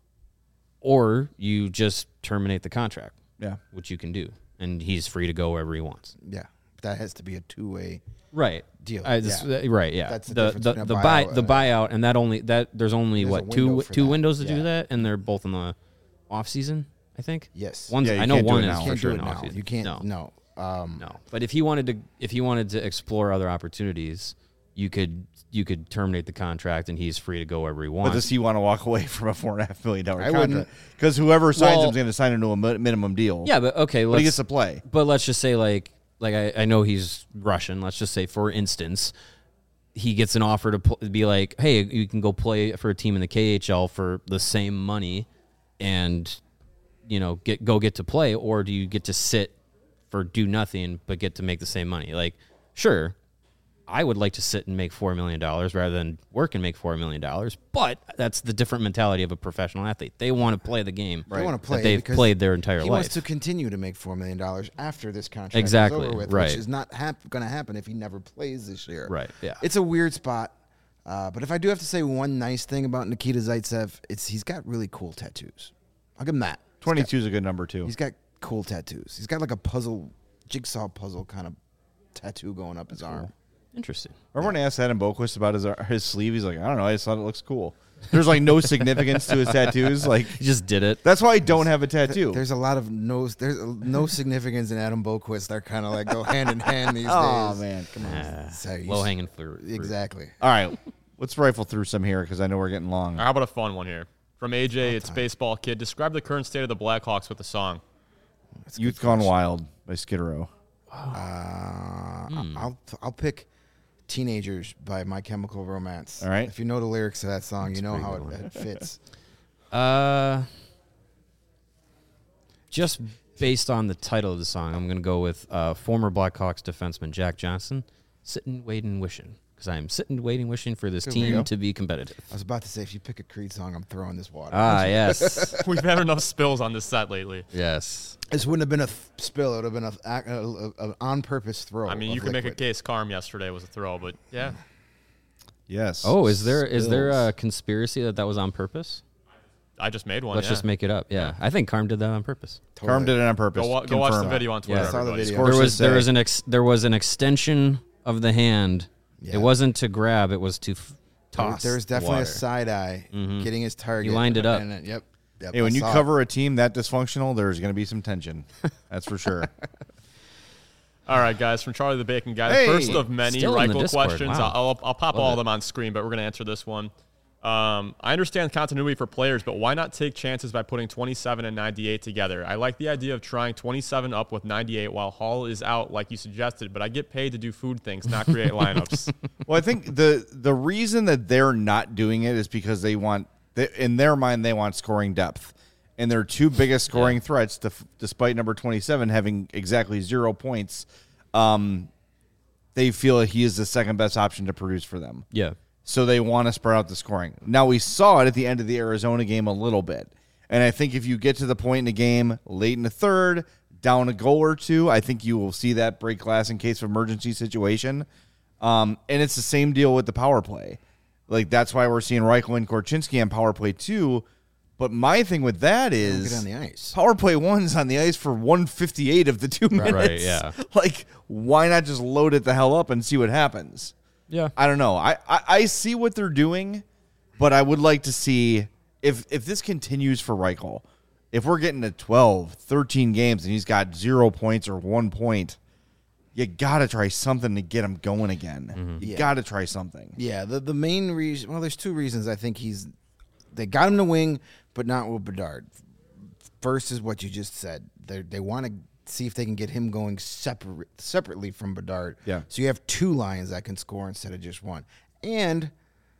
Or you just terminate the contract, Yeah. which you can do, and he's free to go wherever he wants. yeah, that has to be a two way. Right. Deal. I just, Yeah. uh, right. Yeah. That's the the difference the, between a the buy buyout, the uh, buyout and that only that there's only There's a what two window for two that. windows to Yeah. do that, and they're both in the off season. I think. Yes. One's, Yeah, you I know can't do one it is now. for Can't sure do in it the now. off season. You can't. No. No. Um, No. But if he wanted to, if he wanted to explore other opportunities, you could you could terminate the contract, and he's free to go wherever he But wants. does he want to walk away from a four and a half million dollar I contract? wouldn't. Because whoever signs Well- him is going to sign him to a mi- minimum deal. yeah, but okay, but let's he gets to play. But let's just say, like, like I, I know he's Russian. Let's just say, for instance, he gets an offer to pl- be like, hey, you can go play for a team in the K H L for the same money, and you know, get go get to play, or do you get to sit for do nothing but get to make the same money? Like, sure, I would like to sit and make four million dollars rather than work and make four million dollars, but that's the different mentality of a professional athlete. They want to play the game. They want to play that they've because played their entire he life. wants to continue to make four million dollars after this contract Exactly, is over with, right. which is not hap- going to happen if he never plays this year. Right, yeah. It's a weird spot, uh, but if I do have to say one nice thing about Nikita Zaitsev, it's he's got really cool tattoos. I'll give him that. He's got- twenty-two is a good number, too. He's got cool tattoos. He's got like a puzzle, jigsaw puzzle kind of tattoo going up his arm. Interesting. Everyone asked Adam Boquist about his his sleeve. He's like, I don't know. I just thought it looks cool. There's like no significance to his tattoos. Like He just did it. that's why I don't have a tattoo. There's a lot of no, there's no significance in Adam Boquist. They're kind of like go hand in hand these Oh days. man, come on. Uh, So you low s- hanging fruit. fruit. Exactly. All right, let's rifle through some here because I know we're getting long. How about a fun one here? From A J, it's Baseball Kid. Describe the current state of the Blackhawks with a song. That's a Youth good Gone question. Wild by Skid Row. Uh, Hmm. I'll I'll pick "Teenagers" by My Chemical Romance. All right. If you know the lyrics to that song, you know pretty how good it, it fits. Uh, just based on the title of the song, I'm going to go with uh, former Blackhawks defenseman Jack Johnson, "Sitting, Waiting, Wishing," because I am sitting, waiting, wishing for this Good team go. to be competitive. I was about to say, if you pick a Creed song, I'm throwing this water. Ah, yes, We've had enough spills on this set lately. yes. This wouldn't have been a th- spill. It would have been a, a, a, a on purpose throw. I mean, of you can make a liquid. case Carm yesterday was a throw, but yeah. Yes. Oh, is there is there Spills. a conspiracy that that was on purpose? I just made one. Let's yeah. just make it up. Yeah, I think Carm did that on purpose. Carm did it on purpose. Go, wa- go watch the Confirm. video on Twitter. Yeah. I saw the everybody. video. Course There to was there say. was an ex, there was an extension of the hand. Yeah. It wasn't to grab; it was to f- toss. There was definitely water. a side eye Mhm. getting his target. He lined it up. And, uh, yep. yep Hey, I when you saw it. cover a team that dysfunctional, there's going to be some tension. That's for sure. All right, guys, from Charlie the Bacon Guy. Hey! The first of many Still in the Reichel Discord. questions. Wow. I'll, I'll, I'll pop Love all it. of them on screen, but we're going to answer this one. Um, I understand continuity for players, but why not take chances by putting twenty-seven and ninety-eight together? I like the idea of trying twenty-seven up with ninety-eight while Hall is out, like you suggested, but I get paid to do food things, not create lineups. Well, I think the the reason that they're not doing it is because they want, they, in their mind, they want scoring depth. And their two biggest scoring yeah. threats, def, despite number twenty-seven having exactly zero points, um, they feel that he is the second best option to produce for them. Yeah. So they want to spread out the scoring. Now, we saw it at the end of the Arizona game a little bit. And I think if you get to the point in the game late in the third, down a goal or two, I think you will see that break glass in case of emergency situation. Um, and it's the same deal with the power play. Like, that's why we're seeing Reichel and Korchinski on power play two. But my thing with that is get on the ice. Power play one's on the ice for one fifty-eight of the two minutes. Right, yeah. Like, why not just load it the hell up and see what happens? Yeah. I don't know. I, I, I see what they're doing, but I would like to see if if this continues for Reichel, if we're getting to twelve, thirteen games and he's got zero points or one point, you got to try something to get him going again. Mm-hmm. You Yeah. got to try something. Yeah, the the main reason, well, there's two reasons I think he's, they got him to wing, but not with Bedard. First is what you just said. They they want to see if they can get him going separate separately from Bedard. Yeah. So you have two lines that can score instead of just one. And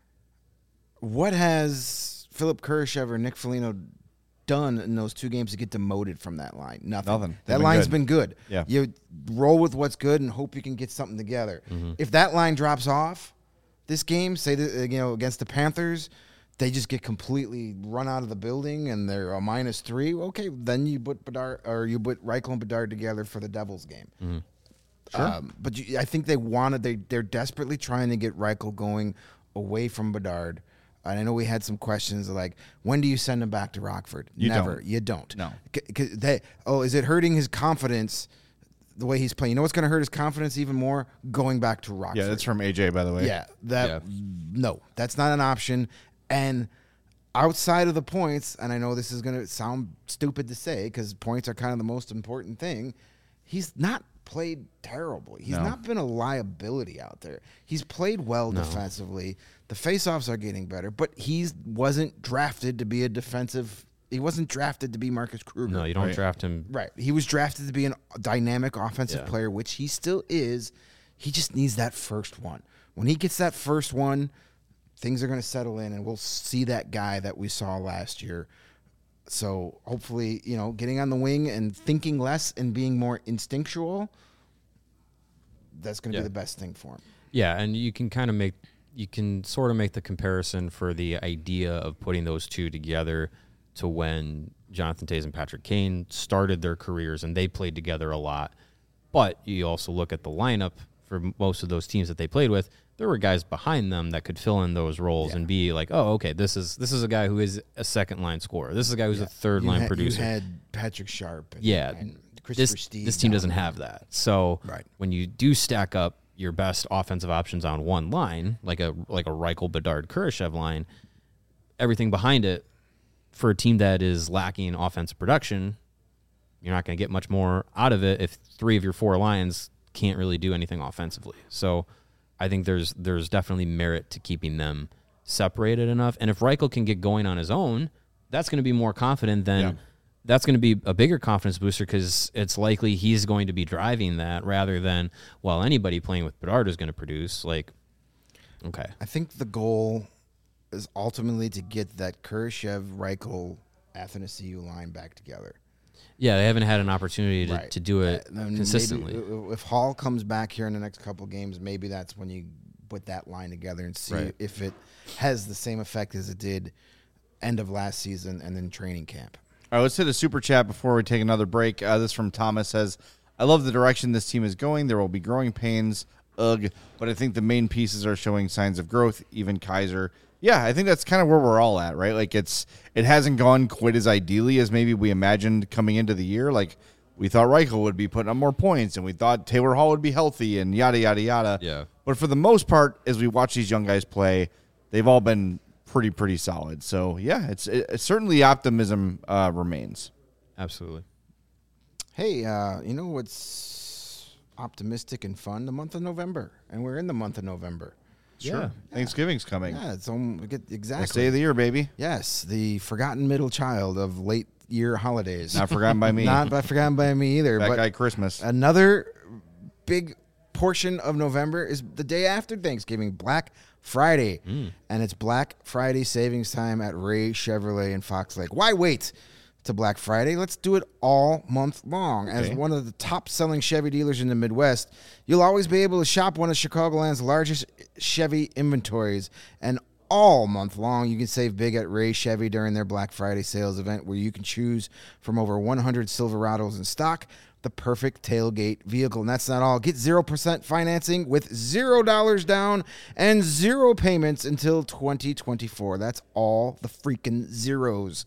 what has Philip Kurashev or Nick Foligno done in those two games to get demoted from that line? Nothing. Nothing. They've That been line's good. been good. Yeah. You roll with what's good and hope you can get something together. Mm-hmm. If that line drops off this game, say that, you know, against the Panthers, they just get completely run out of the building and they're a minus three. Okay, then you put Bedard or you put Reichel and Bedard together for the Devils game. Mm-hmm. Sure. Um, but you, I think they wanted they they're desperately trying to get Reichel going away from Bedard. And I know we had some questions like, when do you send him back to Rockford? You Never. don't. You don't. No. C- 'cause they, oh, is it hurting his confidence the way he's playing? You know what's going to hurt his confidence even more? Going back to Rockford. Yeah, that's from A J, by the way. Yeah, that Yeah. no, that's not an option. And outside of the points, and I know this is going to sound stupid to say because points are kind of the most important thing, he's not played terrible. He's No. not been a liability out there. He's played well No. defensively. The faceoffs are getting better, but he wasn't drafted to be a defensive. He wasn't drafted to be Marcus Kruger. No, you don't Right. draft him. Right. He was drafted to be a dynamic offensive Yeah. player, which he still is. He just needs that first one. When he gets that first one, things are going to settle in, and we'll see that guy that we saw last year. So hopefully, you know, getting on the wing and thinking less and being more instinctual, that's going to Yeah. be the best thing for him. Yeah, and you can kind of make you can sort of make the comparison for the idea of putting those two together to when Jonathan Toews and Patrick Kane started their careers and they played together a lot. But you also look at the lineup for most of those teams that they played with, there were guys behind them that could fill in those roles Yeah. and be like, oh, okay, this is this is a guy who is a second line scorer. This is a guy who's Yeah. a third You line had, producer. You had Patrick Sharp. And, Yeah, and Christopher this Steve this team down doesn't there. have that. So Right. when you do stack up your best offensive options on one line, like a like a Reichel, Bedard, Kurashev line, everything behind it for a team that is lacking offensive production, you're not going to get much more out of it if three of your four lines can't really do anything offensively. So I think there's there's definitely merit to keeping them separated enough. And if Reichel can get going on his own, that's going to be more confident than Yeah. that's going to be a bigger confidence booster because it's likely he's going to be driving that rather than, well, anybody playing with Bedard is going to produce. Like, okay. I think the goal is ultimately to get that Kurashev, Reichel, Athanasiou line back together. Yeah, they haven't had an opportunity to, Right. to do it Uh, then consistently. maybe if Hall comes back here in the next couple games, maybe that's when you put that line together and see Right. if it has the same effect as it did end of last season and then training camp. All right, let's hit a super chat before we take another break. Uh, this from Thomas says, I love the direction this team is going. There will be growing pains, ugh, but I think the main pieces are showing signs of growth, even Kaiser. Yeah, I think that's kind of where we're all at, right? Like it's it hasn't gone quite as ideally as maybe we imagined coming into the year. Like we thought Reichel would be putting up more points, and we thought Taylor Hall would be healthy, and yada, yada, yada. Yeah. But for the most part, as we watch these young guys play, they've all been pretty, pretty solid. So, yeah, it's, it, it's certainly optimism uh, remains. Absolutely. Hey, uh, you know what's optimistic and fun? The month of November, and we're in the month of November. Sure. Yeah. Thanksgiving's coming. Yeah, it's um, get, exactly. Best day of the year, baby. Yes, the forgotten middle child of late year holidays. Not forgotten by me. Not by forgotten by me either. That but guy Christmas. another big portion of November is the day after Thanksgiving, Black Friday. Mm. And it's Black Friday savings time at Ray Chevrolet in Fox Lake. Why wait to Black Friday? Let's do it all month long. As Okay. one of the top-selling Chevy dealers in the Midwest, you'll always be able to shop one of Chicagoland's largest Chevy inventories. And all month long, you can save big at Ray Chevy during their Black Friday sales event, where you can choose from over one hundred Silverados in stock, the perfect tailgate vehicle. And that's not all. Get zero percent financing with zero dollars down and zero payments until twenty twenty-four. That's all the freaking zeros.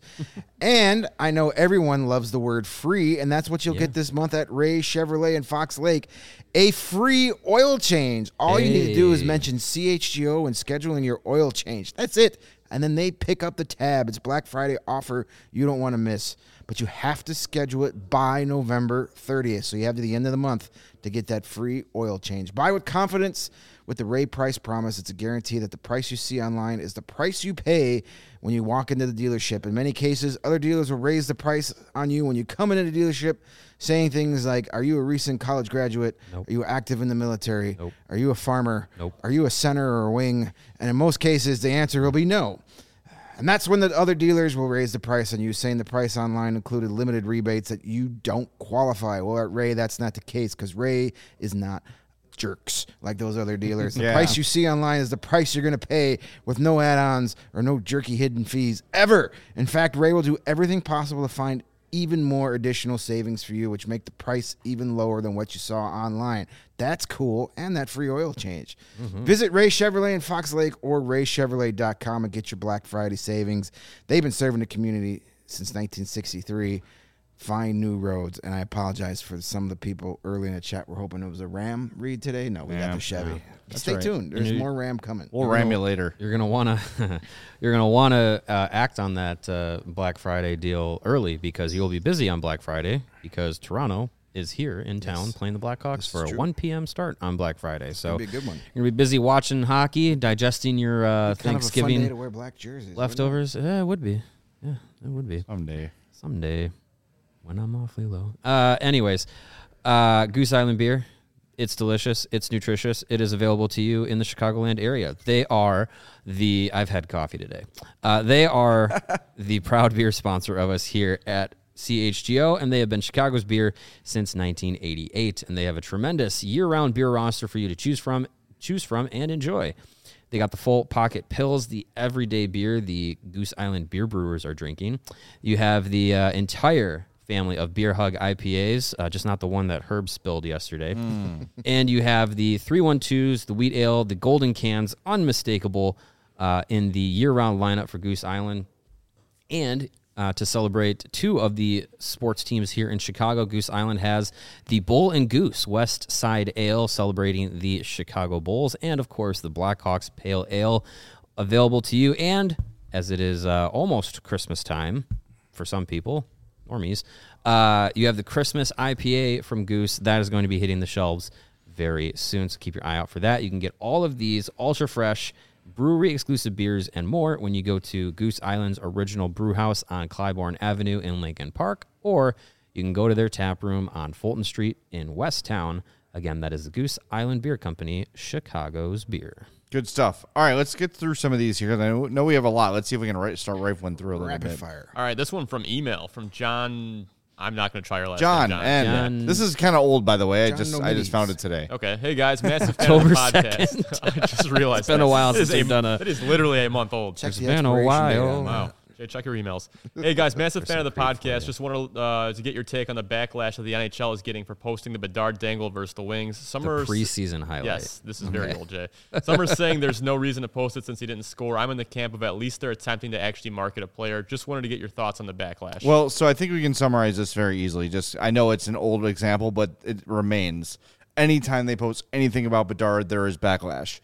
And I know everyone loves the word free, and that's what you'll Yeah. get this month at Ray Chevrolet in Fox Lake. A free oil change. All you need to do is Hey. mention C H G O and scheduling your oil change. That's it. And then they pick up the tab. It's Black Friday offer you don't want to miss. But you have to schedule it by November thirtieth. So you have to the end of the month to get that free oil change. Buy with confidence with the Ray Price Promise. It's a guarantee that the price you see online is the price you pay when you walk into the dealership. In many cases, other dealers will raise the price on you when you come into the dealership, saying things like, are you a recent college graduate? Nope. Are you active in the military? Nope. Are you a farmer? Nope. Are you a center or a wing? And in most cases, the answer will be no. And that's when the other dealers will raise the price on you, saying the price online included limited rebates that you don't qualify. Well, at Ray, that's not the case, because Ray is not jerks like those other dealers. The Yeah. price you see online is the price you're going to pay with no add-ons or no jerky hidden fees ever. In fact, Ray will do everything possible to find even more additional savings for you, which make the price even lower than what you saw online. That's cool, and that free oil change. Mm-hmm. Visit Ray Chevrolet in Fox Lake or ray chevrolet dot com and get your Black Friday savings. They've been serving the community since nineteen sixty-three. Find new roads, and I apologize for some of the people early in the chat. We're hoping it was a Ram read today. No, we Yeah, got the Chevy. yeah. That's Stay right. tuned. There's And you- more Ram coming. We'll ram you later. You're gonna wanna, you're gonna wanna uh, act on that uh, Black Friday deal early, because you'll be busy on Black Friday, because Toronto is here in town Yes. playing the Blackhawks This for is a true. one p.m. start on Black Friday. So It'll be a good one. you're gonna be busy watching hockey, digesting your uh, Kind of a fun day Thanksgiving to wear black jerseys. wouldn't it? leftovers. Yeah, it would be. Yeah, it would be. Someday. Someday, when I'm awfully low. Uh, anyways, uh, Goose Island beer. It's delicious. It's nutritious. It is available to you in the Chicagoland area. They are the. I've had coffee today. Uh, they are the proud beer sponsor of us here at C H G O, and they have been Chicago's beer since nineteen eighty-eight. And they have a tremendous year-round beer roster for you to choose from, choose from, and enjoy. They got the full pocket pills, the everyday beer the Goose Island beer brewers are drinking. You have the uh, entire family of Beer Hug I P As, uh, just not the one that Herb spilled yesterday. And you have the three one twos, the wheat ale, the golden cans, unmistakable uh, in the year-round lineup for Goose Island. And uh, to celebrate two of the sports teams here in Chicago, Goose Island has the Bull and Goose West Side Ale celebrating the Chicago Bulls, and of course the Blackhawks Pale Ale available to you. And as it is uh, almost Christmas time for some people, normies, uh, you have the Christmas I P A from Goose that is going to be hitting the shelves very soon. So keep your eye out for that. You can get all of these ultra fresh brewery exclusive beers and more when you go to Goose Island's original brew house on Clybourne Avenue in Lincoln Park, or you can go to their tap room on Fulton Street in Westtown. Again, that is the Goose Island Beer Company, Chicago's beer. Good stuff. All right, let's get through some of these here, because I know- know we have a lot. Let's see if we can ri- start rifling through a little Rapid bit. fire. All right, this one from email from John. I'm not going to try your last John, name. and John- this is kind of old, by the way. John I just I Nomides. just found it today. Okay, hey guys, massive fan of the October podcast. I just realized It's been that. a while It is since we've done a- It is literally a month old. Check It's the been a expiration date while. on that. Wow. Jay, check your emails. Hey guys, massive fan of the podcast. Just wanted uh, to get your take on the backlash that the N H L is getting for posting the Bedard dangle versus the Wings. Some The are preseason highlight. Yes, this is very old, Jay. Some are saying there's no reason to post it since he didn't score. I'm in the camp of at least they're attempting to actually market a player. Just wanted to get your thoughts on the backlash. Well, so I think we can summarize this very easily. Just I know it's an old example, but it remains. Anytime they post anything about Bedard, there is backlash.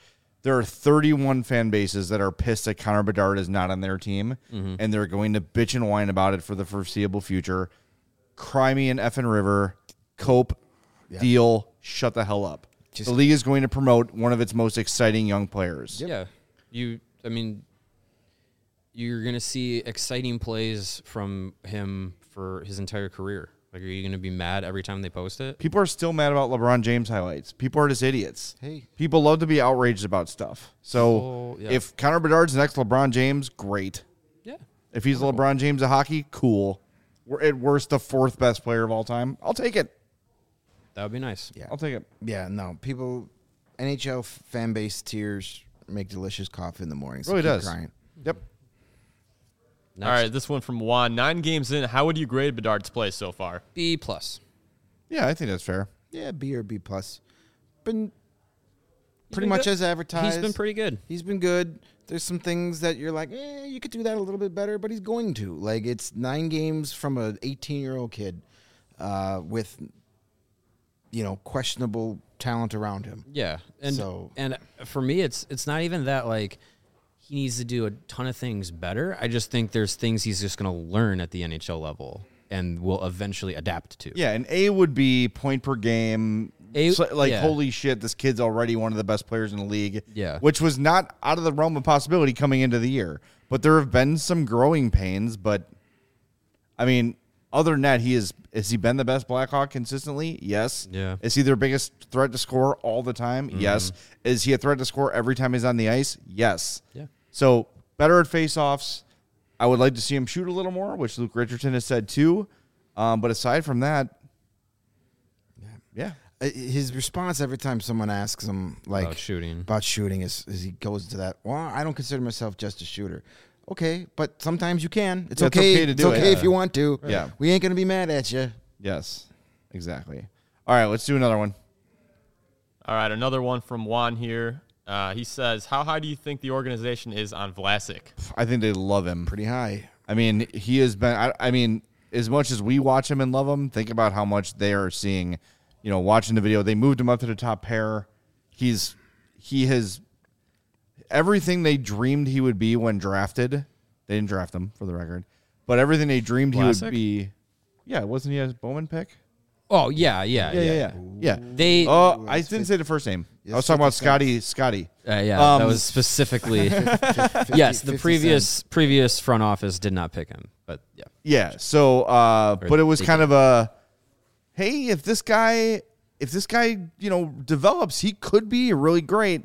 there are thirty-one fan bases that are pissed that Connor Bedard is not on their team, Mm-hmm. and they're going to bitch and whine about it for the foreseeable future. Cry me an effing river. Cope, deal, shut the hell up. Just- the league is going to promote one of its most exciting young players. Yeah. You, I mean, you're going to see exciting plays from him for his entire career. Like, are you going to be mad every time they post it? People are still mad about LeBron James highlights. People are just idiots. Hey. People love to be outraged about stuff. So Oh, yeah. if Connor Bedard's the next LeBron James, great. Yeah. If he's LeBron James of hockey, cool. We're at worst the fourth best player of all time. I'll take it. That would be nice. Yeah. I'll take it. Yeah, no. People, N H L fan base tears make delicious coffee in the morning. So Really keep does. Crying. Yep. Next. All right, this one from Juan. Nine games in, how would you grade Bedard's play so far? B plus. Yeah, I think that's fair. Yeah, B or B plus. Been pretty been much good. as advertised. He's been pretty good. He's been good. There's some things that you're like, eh, you could do that a little bit better, but he's going to. Like, it's nine games from an eighteen-year-old kid uh, with, you know, questionable talent around him. Yeah. And So- and for me it's it's not even that like he needs to do a ton of things better. I just think there's things he's just going to learn at the N H L level and will eventually adapt to. Yeah, and A would be point per game. A- So, like, yeah. holy shit, this kid's already one of the best players in the league. Yeah. Which was not out of the realm of possibility coming into the year. But there have been some growing pains. But, I mean, other than that, he is, has he been the best Blackhawk consistently? Yes. Yeah. Is he their biggest threat to score all the time? Yes. Is he a threat to score every time he's on the ice? Yes. Yeah. So, better at faceoffs. I would like to see him shoot a little more, which Luke Richardson has said too. Um, but aside from that, yeah. Uh, His response every time someone asks him, like, About shooting. about shooting is, is he goes to that, well, I don't consider myself just a shooter. Okay, but sometimes you can. It's Yeah, it's okay. okay to It's do it. okay if Yeah. you want to. Yeah. We ain't going to be mad at you. Yes, exactly. All right, let's do another one. All right, another one from Juan here. Uh, he says, how high do you think the organization is on Vlasic? I think they love him. Pretty high. I mean, he has been. I, I mean, as much as we watch him and love him, think about how much they are seeing. You know, watching the video, they moved him up to the top pair. He's he has everything they dreamed he would be when drafted. They didn't draft him, for the record, but everything they dreamed he Vlasic? would be. Yeah, wasn't he a Bowman pick? Oh, yeah, yeah, Yeah, yeah. yeah, yeah. yeah. They Oh, I didn't say the first name. I was talking about fifty Scotty. Scotty. uh, yeah, Um, that was specifically Yes, the fifty previous previous front office did not pick him, but yeah. Yeah. So, uh, but it was they kind did. of a, hey, if this guy, if this guy, you know, develops, he could be really great.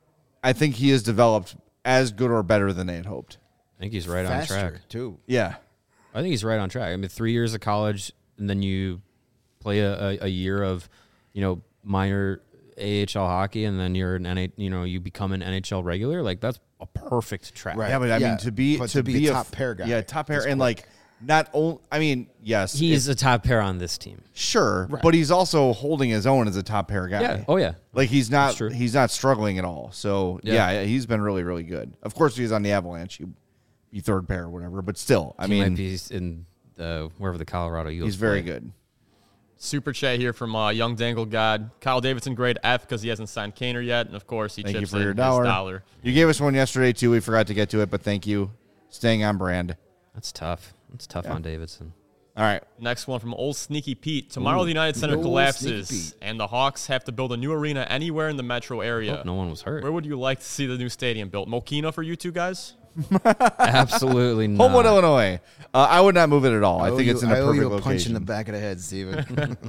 I think he has developed as good or better than they had hoped. I think he's right Faster, on track. too. Yeah. I think he's right on track. I mean, three years of college, and then you play a, a, a year of, you know, minor A H L hockey, and then you're an N H, you know, you become an N H L regular. Like that's a perfect track. Right. Yeah, but I Yeah, mean, to be but to, to be a f- top pair guy yeah, top pair, is and quick. like not only. I mean, yes, He's it- a top pair on this team. sure, but he's also holding his own as a top pair guy. Yeah. Oh yeah. Like he's not true. he's not struggling at all. So Yeah. yeah. he's been really really good. Of course, he's on the Avalanche. He be third pair or whatever, but still, I he mean, might be in the wherever the Colorado Eagles. he's very play. good. Super chat here from uh, Young Dangle God. Kyle Davidson, grade F because he hasn't signed Kaner yet. And, of course, he Thank you chips for in your his dollar. dollar. You gave us one yesterday too. We forgot to get to it, but thank you. Staying on brand. That's tough. That's tough on Davidson. All right. Next one from Old Sneaky Pete. Tomorrow the United Center Old collapses, Sneaky Pete. and the Hawks have to build a new arena anywhere in the metro area. Hope no one was hurt. Where would you like to see the new stadium built? Mokina for you two guys? Absolutely not. Homewood, Illinois. Uh, I would not move it at all. I, owe think you- it's in a I owe perfect you a punch in location. the back of the head, Steven.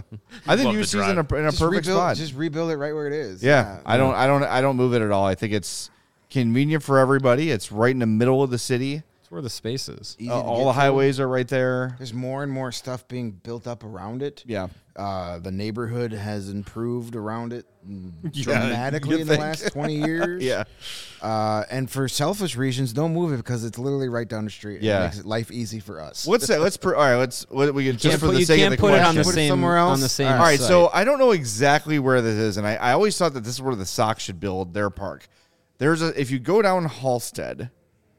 I think Love U the C's in a, in a just perfect rebuild, spot. Just rebuild it right where it is. yeah, I don't, I don't, I don't move it at all. I think it's convenient for everybody. It's right in the middle of the city. That's where the space is. Easy Uh, to all get the to. highways are right there. There's more and more stuff being built up around it. Yeah. Uh, the neighborhood has improved around it Yeah, dramatically you in the think? last twenty years. Yeah. Uh, and for selfish reasons, don't move it because it's literally right down the street. Yeah. It makes it life easy for us. Let's say, let's, pr- all right, let's, what, we can just Can't for put, the you sake can't of the put it on the question. Put it same somewhere on else? the same. All All right, site. so I don't know exactly where this is, and I, I always thought that this is where the Sox should build their park. There's a if you go down Halstead,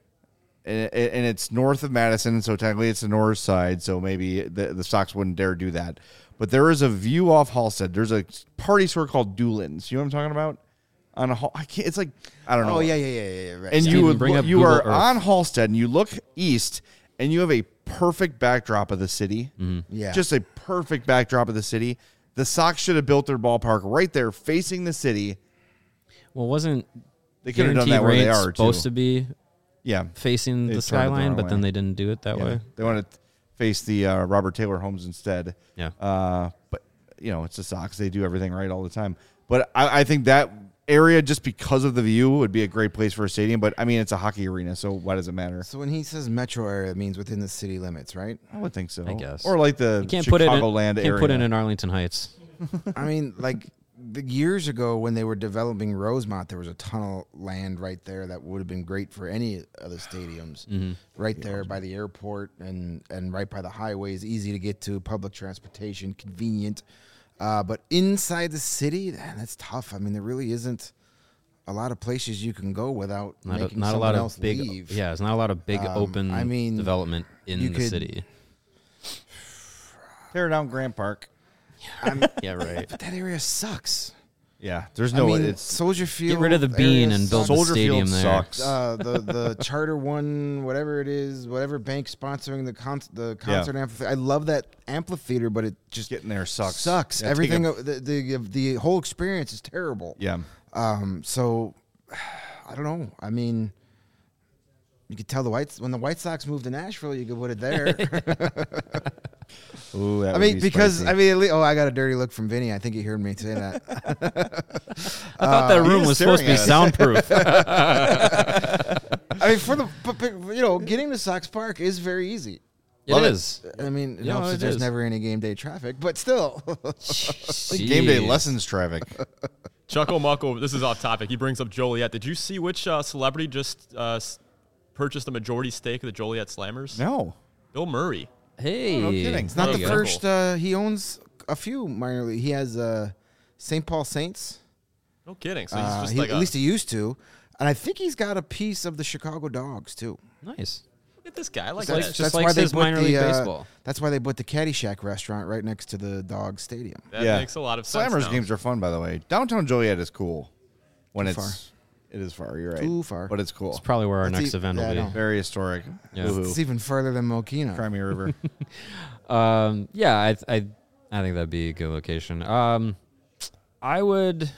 and, and it's north of Madison, so technically it's the north side, so maybe the, the Sox wouldn't dare do that. But there is a view off Halstead. There's a party store called Doolin's. You know what I'm talking about? on a Hall. I can't. It's like I don't know. Oh yeah, yeah, yeah, yeah. yeah right. And yeah. you Steven, would bring look, up you Google are Earth. on Halstead, and you look east, and you have a perfect backdrop of the city. Yeah. Just a perfect backdrop of the city. The Sox should have built their ballpark right there, facing the city. Well, wasn't They could have done Guaranteed that where they Rate's are supposed too. to be Yeah, facing They the turned it the skyline, wrong but then way. they didn't do it that yeah. way. They wanted to face the uh, Robert Taylor homes instead. Yeah. Uh, but you know, it's the Sox. They do everything right all the time. But I, I think that area, just because of the view, would be a great place for a stadium. But I mean, it's a hockey arena, so why does it matter? So when he says metro area, it means within the city limits, right? I would think so. I guess. Or like the You can't put it in, Chicagoland can't area. put it in Arlington Heights. I mean, like the years ago when they were developing Rosemont, there was a ton of land right there that would have been great for any of the stadiums. Mm-hmm. Right there by the airport and, and right by the highways, easy to get to, public transportation, convenient. Uh, but inside the city, man, that's tough. I mean, there really isn't a lot of places you can go without Not a, making not a someone lot else of big. leave. Yeah, it's not a lot of big Um, open I mean, development in you the could- city. Tear down Grant Park. I'm, Yeah, right. but that area sucks. Yeah, there's no. I mean, it's Soldier Field. Get rid of the bean area and build sucks. the Soldier stadium Field there. sucks. uh, the the Charter One, whatever it is, whatever bank sponsoring the con- the concert amphitheater. I love that amphitheater, but it just Getting there sucks. sucks. Yeah, take Everything, a- o- the, the the whole experience is terrible. Yeah. Um. So, I don't know. I mean, you could tell the Whites when the White Sox moved to Nashville, you could put it there. Ooh, that I would mean, be because spicy. I mean, at least, oh, I got a dirty look from Vinny. I think he heard me say that. I thought that he room is was supposed to be staring soundproof. I mean, for the but, but, you know, getting to Sox Park is very easy. It Love it. is. I mean, it Yeah, helps it that there's is. never any game day traffic, but still. Like game day Jeez. lessons traffic. Chuckle Muckle, this is off topic. He brings up Joliet. Did you see which uh, celebrity just uh, s- purchased a majority stake of the Joliet Slammers? No. Bill Murray. Hey, no kidding. It's not There the you go. first. Uh, he owns a few minor league. He has uh, Saint Paul Saints. No kidding. So he's Uh, just he- like at a, least he used to, and I think he's got a piece of the Chicago Dogs too. Nice. look at this guy. I like Just like- that. just why they says put minor the, league uh, baseball. That's why they put the Caddyshack restaurant right next to the Dogs Stadium. that yeah. makes a lot of sense. Slammers now. games are fun, by the way. Downtown Joliet is cool when Too it's. far. It is far. You're right. Too far. But it's cool. It's probably where our That's next e- event yeah, I will know. be. Very historic. Yeah. Woohoo. It's even further than Mokina. Crimea River. Um, yeah, I, I, I think that'd be a good location. Um, I would.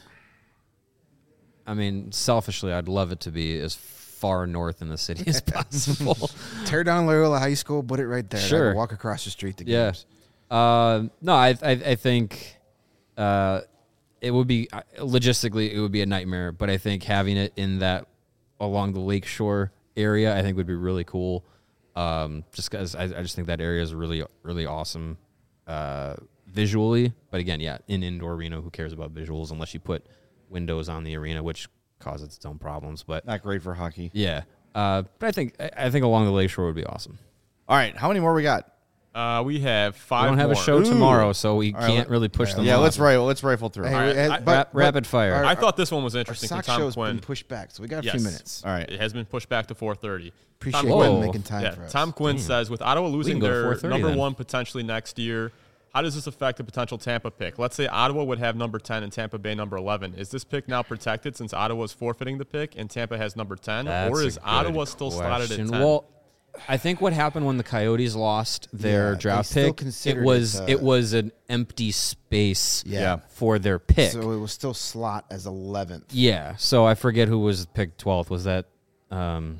I mean, selfishly, I'd love it to be as far north in the city as possible. Tear down Loyola High School, put it right there. Sure. I could walk across the street to Yeah. games. Uh, no, I, I, I think, uh, it would be uh, logistically it would be a nightmare, but I think having it in that along the lakeshore area, I think would be really cool. Um, just because I, I just think that area is really, really awesome, uh, visually. But again, yeah, in indoor arena, who cares about visuals unless you put windows on the arena, which causes its own problems. But Not great for hockey. yeah, uh, but I think I, I think along the lakeshore would be awesome. All right. How many more we got? Uh, we have We five don't have more. a show Ooh. tomorrow, so we All right, can't let- really push them. Yeah, off. let's rifle. Let's rifle through. Hey, All right, uh, I- but- Rap- but rapid fire. our- I thought this one was Our interesting from Sox Tom show's Quinn. been pushed back, so we got a Yes. few minutes. All right. It has been pushed back to four thirty. Appreciate Tom you Quinn. making time Yeah, for us. Tom Quinn says, with Ottawa losing go to their four thirty number then. one potentially next year, how does this affect a potential Tampa pick? Let's say Ottawa would have number ten and Tampa Bay number eleven. Is this pick now protected since Ottawa is forfeiting the pick and Tampa has number ten? That's or a is good Ottawa still slotted at question. ten? Well, I think what happened when the Coyotes lost their Yeah, they draft still pick, it considered was it, it, uh, was an empty space Yeah. Yeah. for their pick. So it was still slot as eleventh. yeah, so I forget who was picked twelfth. Was that um,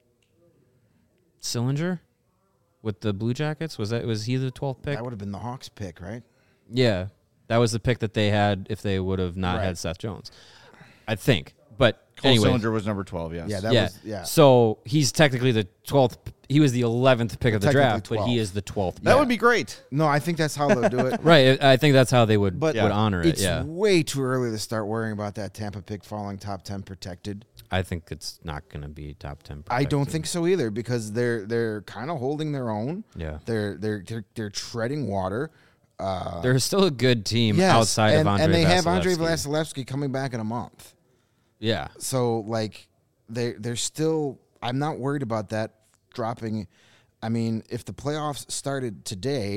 Sillinger with the Blue Jackets? Was that was he the twelfth pick? That would have been the Hawks pick, right? Yeah, that was the pick that they had if they would have not Right. had Seth Jones. I think, but Cole anyway, Sillinger was number twelve, yes. Yeah, that yeah. was yeah. So he's technically the twelfth. He was the eleventh pick of the Technically draft, but he twelfth. is the twelfth. That pick. would be great. No, I think that's how they'll do it. Right. I I think that's how they would But would honor it. It's Yeah. way too early to start worrying about that Tampa pick falling top ten protected. I think it's not going to be top ten. I don't protected. think so either because they're they're kind of holding their own. Yeah. They're they're they're, they're treading water. Uh, They're still a good team yes, outside and, of Andre and they have Vasilevsky. Andre Vasilevsky coming back in a month. Yeah. So like they they're still. I'm not worried about that dropping. I mean, if the playoffs started today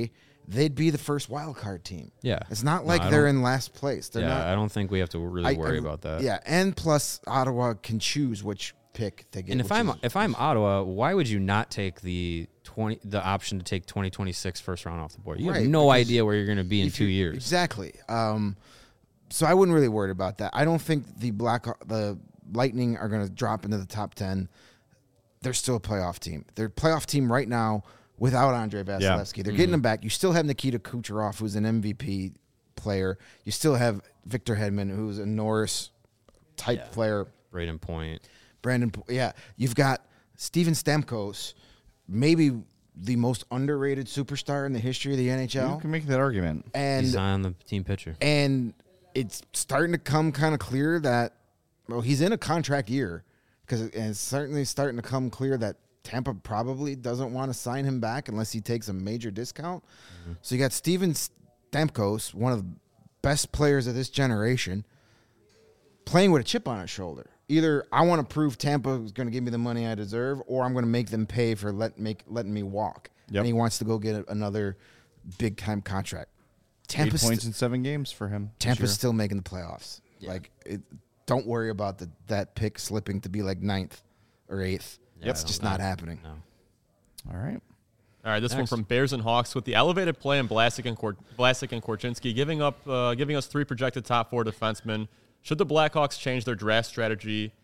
they'd be the first wild card team. Yeah. It's not No, like I they're don't- in last place. They're yeah, not. I don't think we have to really I- worry I- about that. Yeah, and plus Ottawa can choose which pick they get. And if which I'm is- if I'm Ottawa, why would you not take the twenty the option to take twenty twenty-six first round off the board? You Right, have no because idea where you're going to be in if two you- years. Exactly. Um, so I wouldn't really worry about that. I don't think the Black the Lightning are going to drop into the top ten. They're still a playoff team. They're a playoff team right now without Andrei Vasilevsky. They're getting him back. You still have Nikita Kucherov, who's an M V P player. You still have Victor Hedman, who's a Norris type Yeah. player. Braden Point. Brandon, Po- yeah, you've got Steven Stamkos, maybe the most underrated superstar in the history of the N H You L, can make that argument. and He's on the team pitcher. and it's starting to come kind of clear that well, he's in a contract year because it's certainly starting to come clear that Tampa probably doesn't want to sign him back unless he takes a major discount. Mm-hmm. So you got Steven Stamkos, one of the best players of this generation, playing with a chip on his shoulder. Either I want to prove Tampa is going to give me the money I deserve, or I'm going to make them pay for let make letting me walk. Yep. And he wants to go get a, another big time contract. Eight Tampa's points st- in seven games for him. this Tampa's year. still making the playoffs. Like, it, don't worry about the, that pick slipping to be like ninth or eighth. Yeah, It's I just don't not know. happening. No. All right. All right, this Next. one from Bears and Hawks with the elevated play in Vlasic and Kor- Vlasic and Korchinski, giving up, uh, giving us three projected top four defensemen. Should the Blackhawks change their draft strategy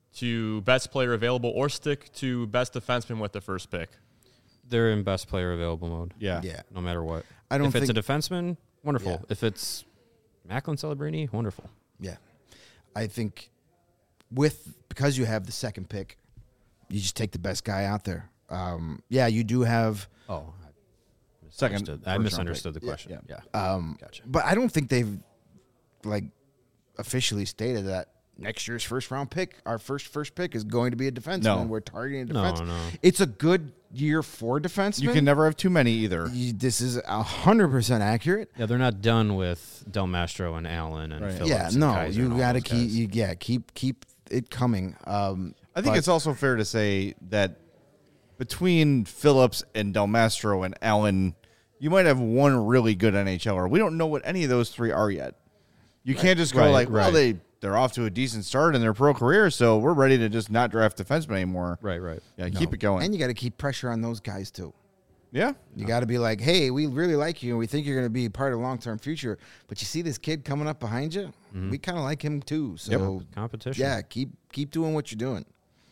to best player available, or stick to best defenseman with the first pick? They're in best player available mode. Yeah. Yeah. No matter what. I don't if it's a think- defenseman, wonderful. Yeah. If it's Macklin Celebrini, wonderful. Yeah. I think with because you have the second pick, you just take the best guy out there. Um, yeah, you do have Oh, Second. Misunderstood. first I round misunderstood pick. the question. Yeah. Yeah. Um, Gotcha. But I don't think they've like officially stated that next year's first round pick, our first first pick, is going to be a defenseman. No. We're targeting a No, defenseman. no. It's a good year for defensemen. You can never have too many either. You- this is a hundred percent accurate. Yeah, they're not done with Del Mastro and Allen and Right. Phillips. Yeah, and no, Kaiser you and all got to those keep. guys. You, yeah, keep keep it coming. Um, I think but- it's also fair to say that between Phillips and Del Mastro and Allen, you might have one really good NHLer. We don't know what any of those three are yet. You can't just go Right, like, well, right. they they're off to a decent start in their pro career, so we're ready to just not draft defensemen anymore. Right, right. Yeah, keep it going. and you got to keep pressure on those guys too. yeah, You got to be like, hey, we really like you, and we think you're going to be part of the long term future. But you see this kid coming up behind you, we kind of like him too. So Competition. yeah, keep keep doing what you're doing.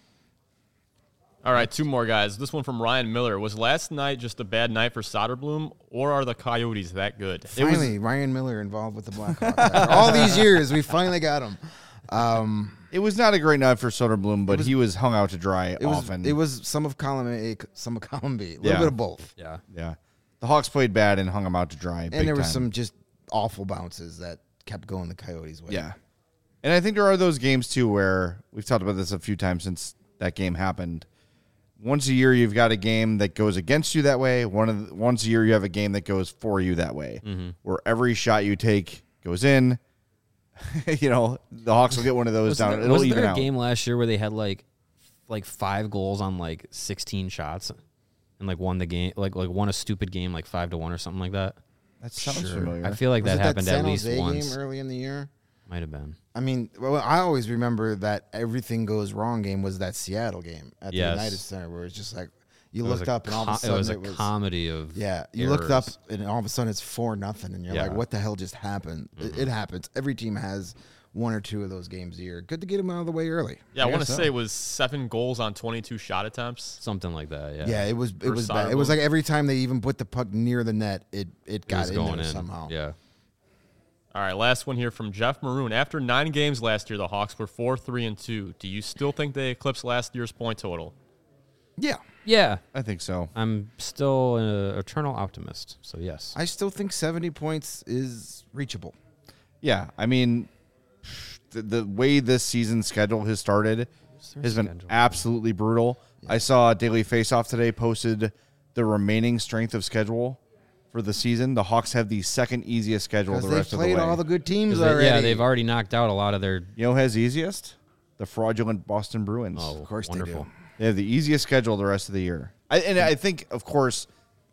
All right, two more guys. This one from Ryan Miller. Was last night just a bad night for Soderblom, or are the Coyotes that good? Finally, Ryan Miller involved with the Blackhawks. After all these years, we finally got him. Um, it was not a great night for Soderblom, but was- he was hung out to dry it was often. it was some of column A, some of column B, a little Yeah. bit of both. Yeah. yeah. The Hawks played bad and hung him out to dry. And there was some just awful bounces that kept going the Coyotes' way. Yeah. And I think there are those games too where we've talked about this a few times since that game happened. Once a year you've got a game that goes against you that way. One of the, once a year you have a game that goes for you that way. Mm-hmm. Where every shot you take goes in. You know, the Hawks will get one of those Was down. there, It'll was even there a out. game last year where they had like like five goals on like sixteen shots and like won the game, like like won a stupid game like five to one or something like that? That sounds Sure. familiar. I feel like Was that it happened that San at least Jose once. game early in the year? Might have been. I mean, well, I always remember that everything goes wrong game was that Seattle game at the Yes. United Center where it's just like you It was looked a up and all of a co- sudden it was a it was comedy of yeah. You looked up errors. and all of a sudden it's four nothing and you're Yeah. like, what the hell just happened? It, it happens. Every team has one or two of those games a year. Good to get them out of the way early. Yeah, I, want to guess so. say it was seven goals on twenty-two shot attempts. something like that. Yeah, Yeah, it was it For was bad. It was Soderblom. like every time they even put the puck near the net, it it It got was in going there in somehow. Yeah, All right, last one here from Jeff Maroon. After nine games last year, the Hawks were four, three, and two. Do you still think they eclipsed last year's point total? Yeah. yeah. I think so. I'm still an eternal optimist. So yes, I still think seventy points is reachable. Yeah, I mean, the, the way this season's schedule has started has been schedule? absolutely brutal. I saw Daily Faceoff today posted the remaining strength of schedule for the season. The Hawks have the second easiest schedule Because the they've rest of the played way. all the good teams 'Cause they- already. yeah, they've already knocked out a lot of their. you know who has easiest? The fraudulent Boston Bruins. Oh, Of course they wonderful. do. They have the easiest schedule the rest of the year. I, and I think, of course,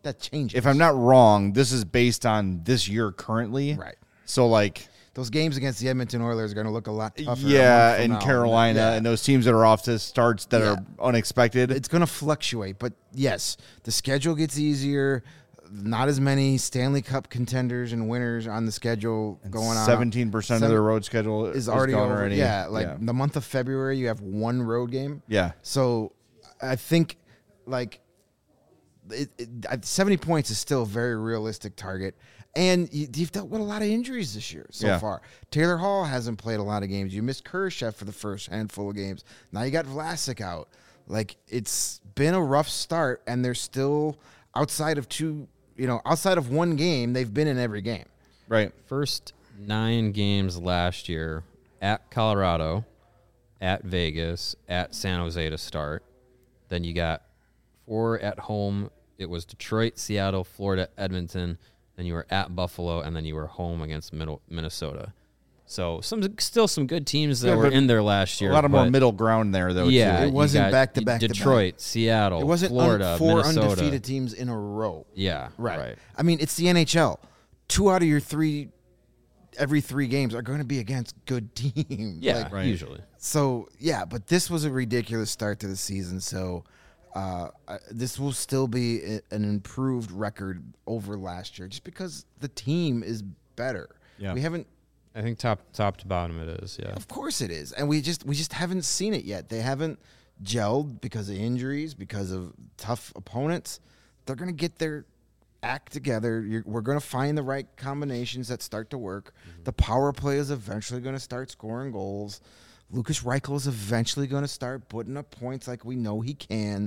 that changes. If I'm not wrong, this is based on this year currently. Right. So, like, those games against the Edmonton Oilers are going to look a lot tougher. yeah, a month from and now. Carolina Yeah. and those teams that are off to starts that Yeah. are unexpected. It's going to fluctuate, but yes, the schedule gets easier. Not as many Stanley Cup contenders and winners on the schedule going on. seventeen percent of Seven- their road schedule is is already gone over. already. Yeah, like yeah. the month of February, you have one road game. Yeah. So I think like it, it, at seventy points is still a very realistic target. And you, you've dealt with a lot of injuries this year so Yeah. far. Taylor Hall hasn't played a lot of games. You missed Kurashev for the first handful of games. Now you got Vlasic out. Like, it's been a rough start, and they're still outside of two, you know, outside of one game, they've been in every game. Right. First nine games last year at Colorado, at Vegas, at San Jose to start. Then you got four at home. It was Detroit, Seattle, Florida, Edmonton. Then you were at Buffalo, and then you were home against middle, Minnesota. So some still some good teams that Yeah, were but in there last year. A lot of more but middle ground there, though. Yeah, too. It you wasn't got back-to-back to back. Detroit, Seattle, It wasn't Florida, un- four Minnesota. undefeated teams in a row. Yeah, Right. right. I mean, it's the N H L. Two out of your three, every three games are going to be against good teams. Yeah, Like, Right. usually. so, yeah, but this was a ridiculous start to the season. So, uh, I- this will still be a- an improved record over last year just because the team is better. Yeah. We haven't. I think top top to bottom it is. Yeah. Of course it is, and we just we just haven't seen it yet. They haven't gelled because of injuries, because of tough opponents. They're gonna get their act together. You're, we're gonna find the right combinations that start to work. Mm-hmm. The power play is eventually gonna start scoring goals. Lucas Reichel is eventually gonna start putting up points like we know he can.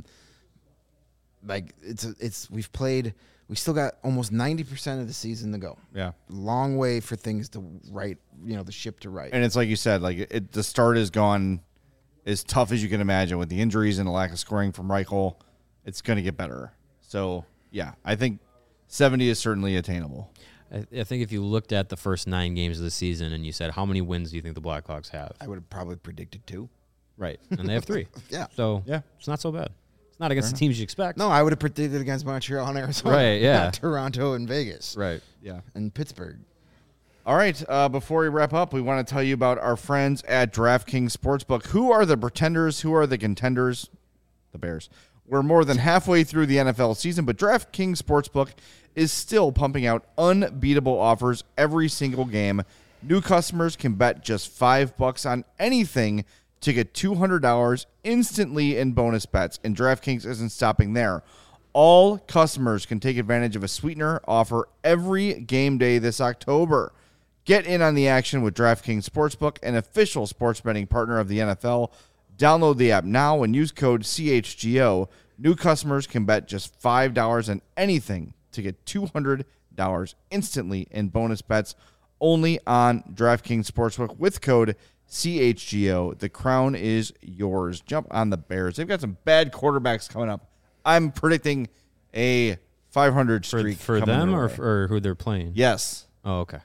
Like it's a, it's we've played. We still got almost ninety percent of the season to go. Yeah. Long way for things to right. You know, the ship to right. And it's like you said, like it, the start has gone as tough as you can imagine with the injuries and the lack of scoring from Reichel. It's going to get better. So, yeah, I think seventy is certainly attainable. I, I think if you looked at the first nine games of the season and you said, how many wins do you think the Blackhawks have? I would have probably predicted two. Right. And they have three. Yeah. So Yeah. it's not so bad. It's not against the teams you expect. No, I would have predicted against Montreal and Arizona. Right, yeah. Not Toronto and Vegas. Right. Yeah. And Pittsburgh. All right. Uh, before we wrap up, we want to tell you about our friends at DraftKings Sportsbook. Who are the pretenders? Who are the contenders? The Bears. We're more than halfway through the N F L season, but DraftKings Sportsbook is still pumping out unbeatable offers every single game. New customers can bet just five bucks on anything to get two hundred dollars instantly in bonus bets, and DraftKings isn't stopping there. All customers can take advantage of a sweetener offer every game day this October. Get in on the action with DraftKings Sportsbook, an official sports betting partner of the N F L. Download the app now and use code C H G O. New customers can bet just five dollars on anything to get two hundred dollars instantly in bonus bets only on DraftKings Sportsbook with code C H G O. The crown is yours. Jump on the Bears. They've got some bad quarterbacks coming up. I'm predicting a five hundred For, streak for coming them their or, way. or who they're playing? Yes. Oh, okay.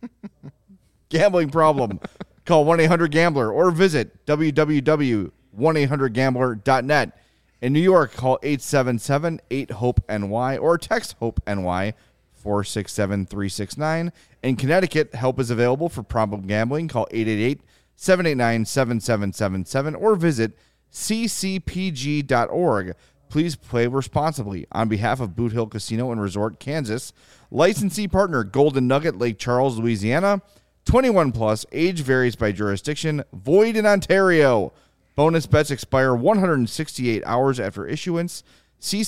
Gambling problem. Call one eight hundred gambler or visit w w w dot one eight hundred gambler dot net. In New York, call eight seven seven eight hope N Y or text HOPE-NY four six seven three six nine. In Connecticut, help is available for problem gambling. Call eight eight eight seven eight nine seven seven seven seven or visit c c p g dot org. Please play responsibly. On behalf of Boot Hill Casino and Resort, Kansas, licensee partner Golden Nugget, Lake Charles, Louisiana. twenty-one plus, age varies by jurisdiction, void in Ontario. Bonus bets expire one hundred sixty-eight hours after issuance. See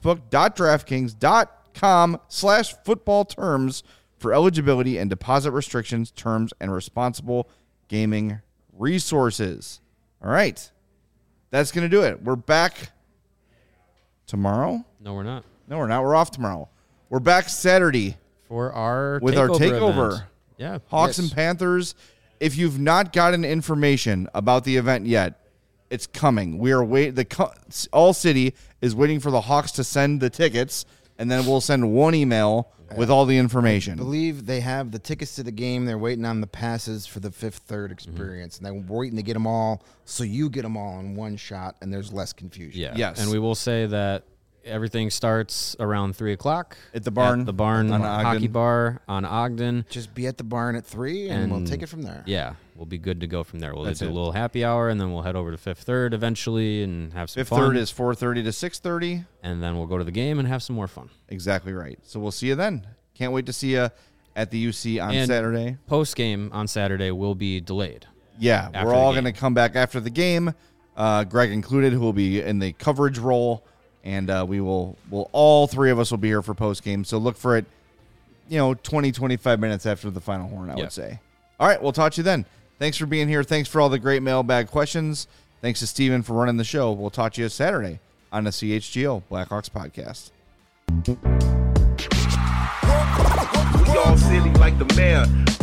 sportsbook.draftkings.com slash football terms for eligibility and deposit restrictions, terms, and responsible gaming resources. All right. That's going to do it. We're back tomorrow. No, we're not. No, we're not. We're off tomorrow. We're back Saturday For our with takeover our takeover. event. Yeah. Hawks Yes. and Panthers. If you've not gotten information about the event yet, it's coming. We are wait. The co- All City is waiting for the Hawks to send the tickets, and then we'll send one email with all the I information. believe they have the tickets to the game. They're waiting on the passes for the fifth third experience. And they're waiting to get them all so you get them all in one shot and there's less confusion. Yeah. Yes. And we will say that everything starts around three o'clock At the barn? At the barn On hockey Ogden? bar on Ogden. Just be at the barn at three, and, we'll And- take it from there. Yeah, we'll be good to go from there. We'll That's do it. a little happy hour, and then we'll head over to Fifth Third eventually and have some Fifth fun. Third is four thirty to six thirty. and then we'll go to the game and have some more fun. Exactly right. So we'll see you then. Can't wait to see you at the U C on And Saturday. Post game on Saturday will be delayed. Yeah, after we're the all game. going to come back after the game, uh, Greg included, who will be in the coverage role, and uh, we will, will, all three of us will be here for post game. So look for it, you know, twenty, twenty-five minutes after the final horn, I Yeah. would say. All right, we'll talk to you then. Thanks for being here. Thanks for all the great mailbag questions. Thanks to Steven for running the show. We'll talk to you Saturday on the C H G O Blackhawks podcast. We all silly like the mayor.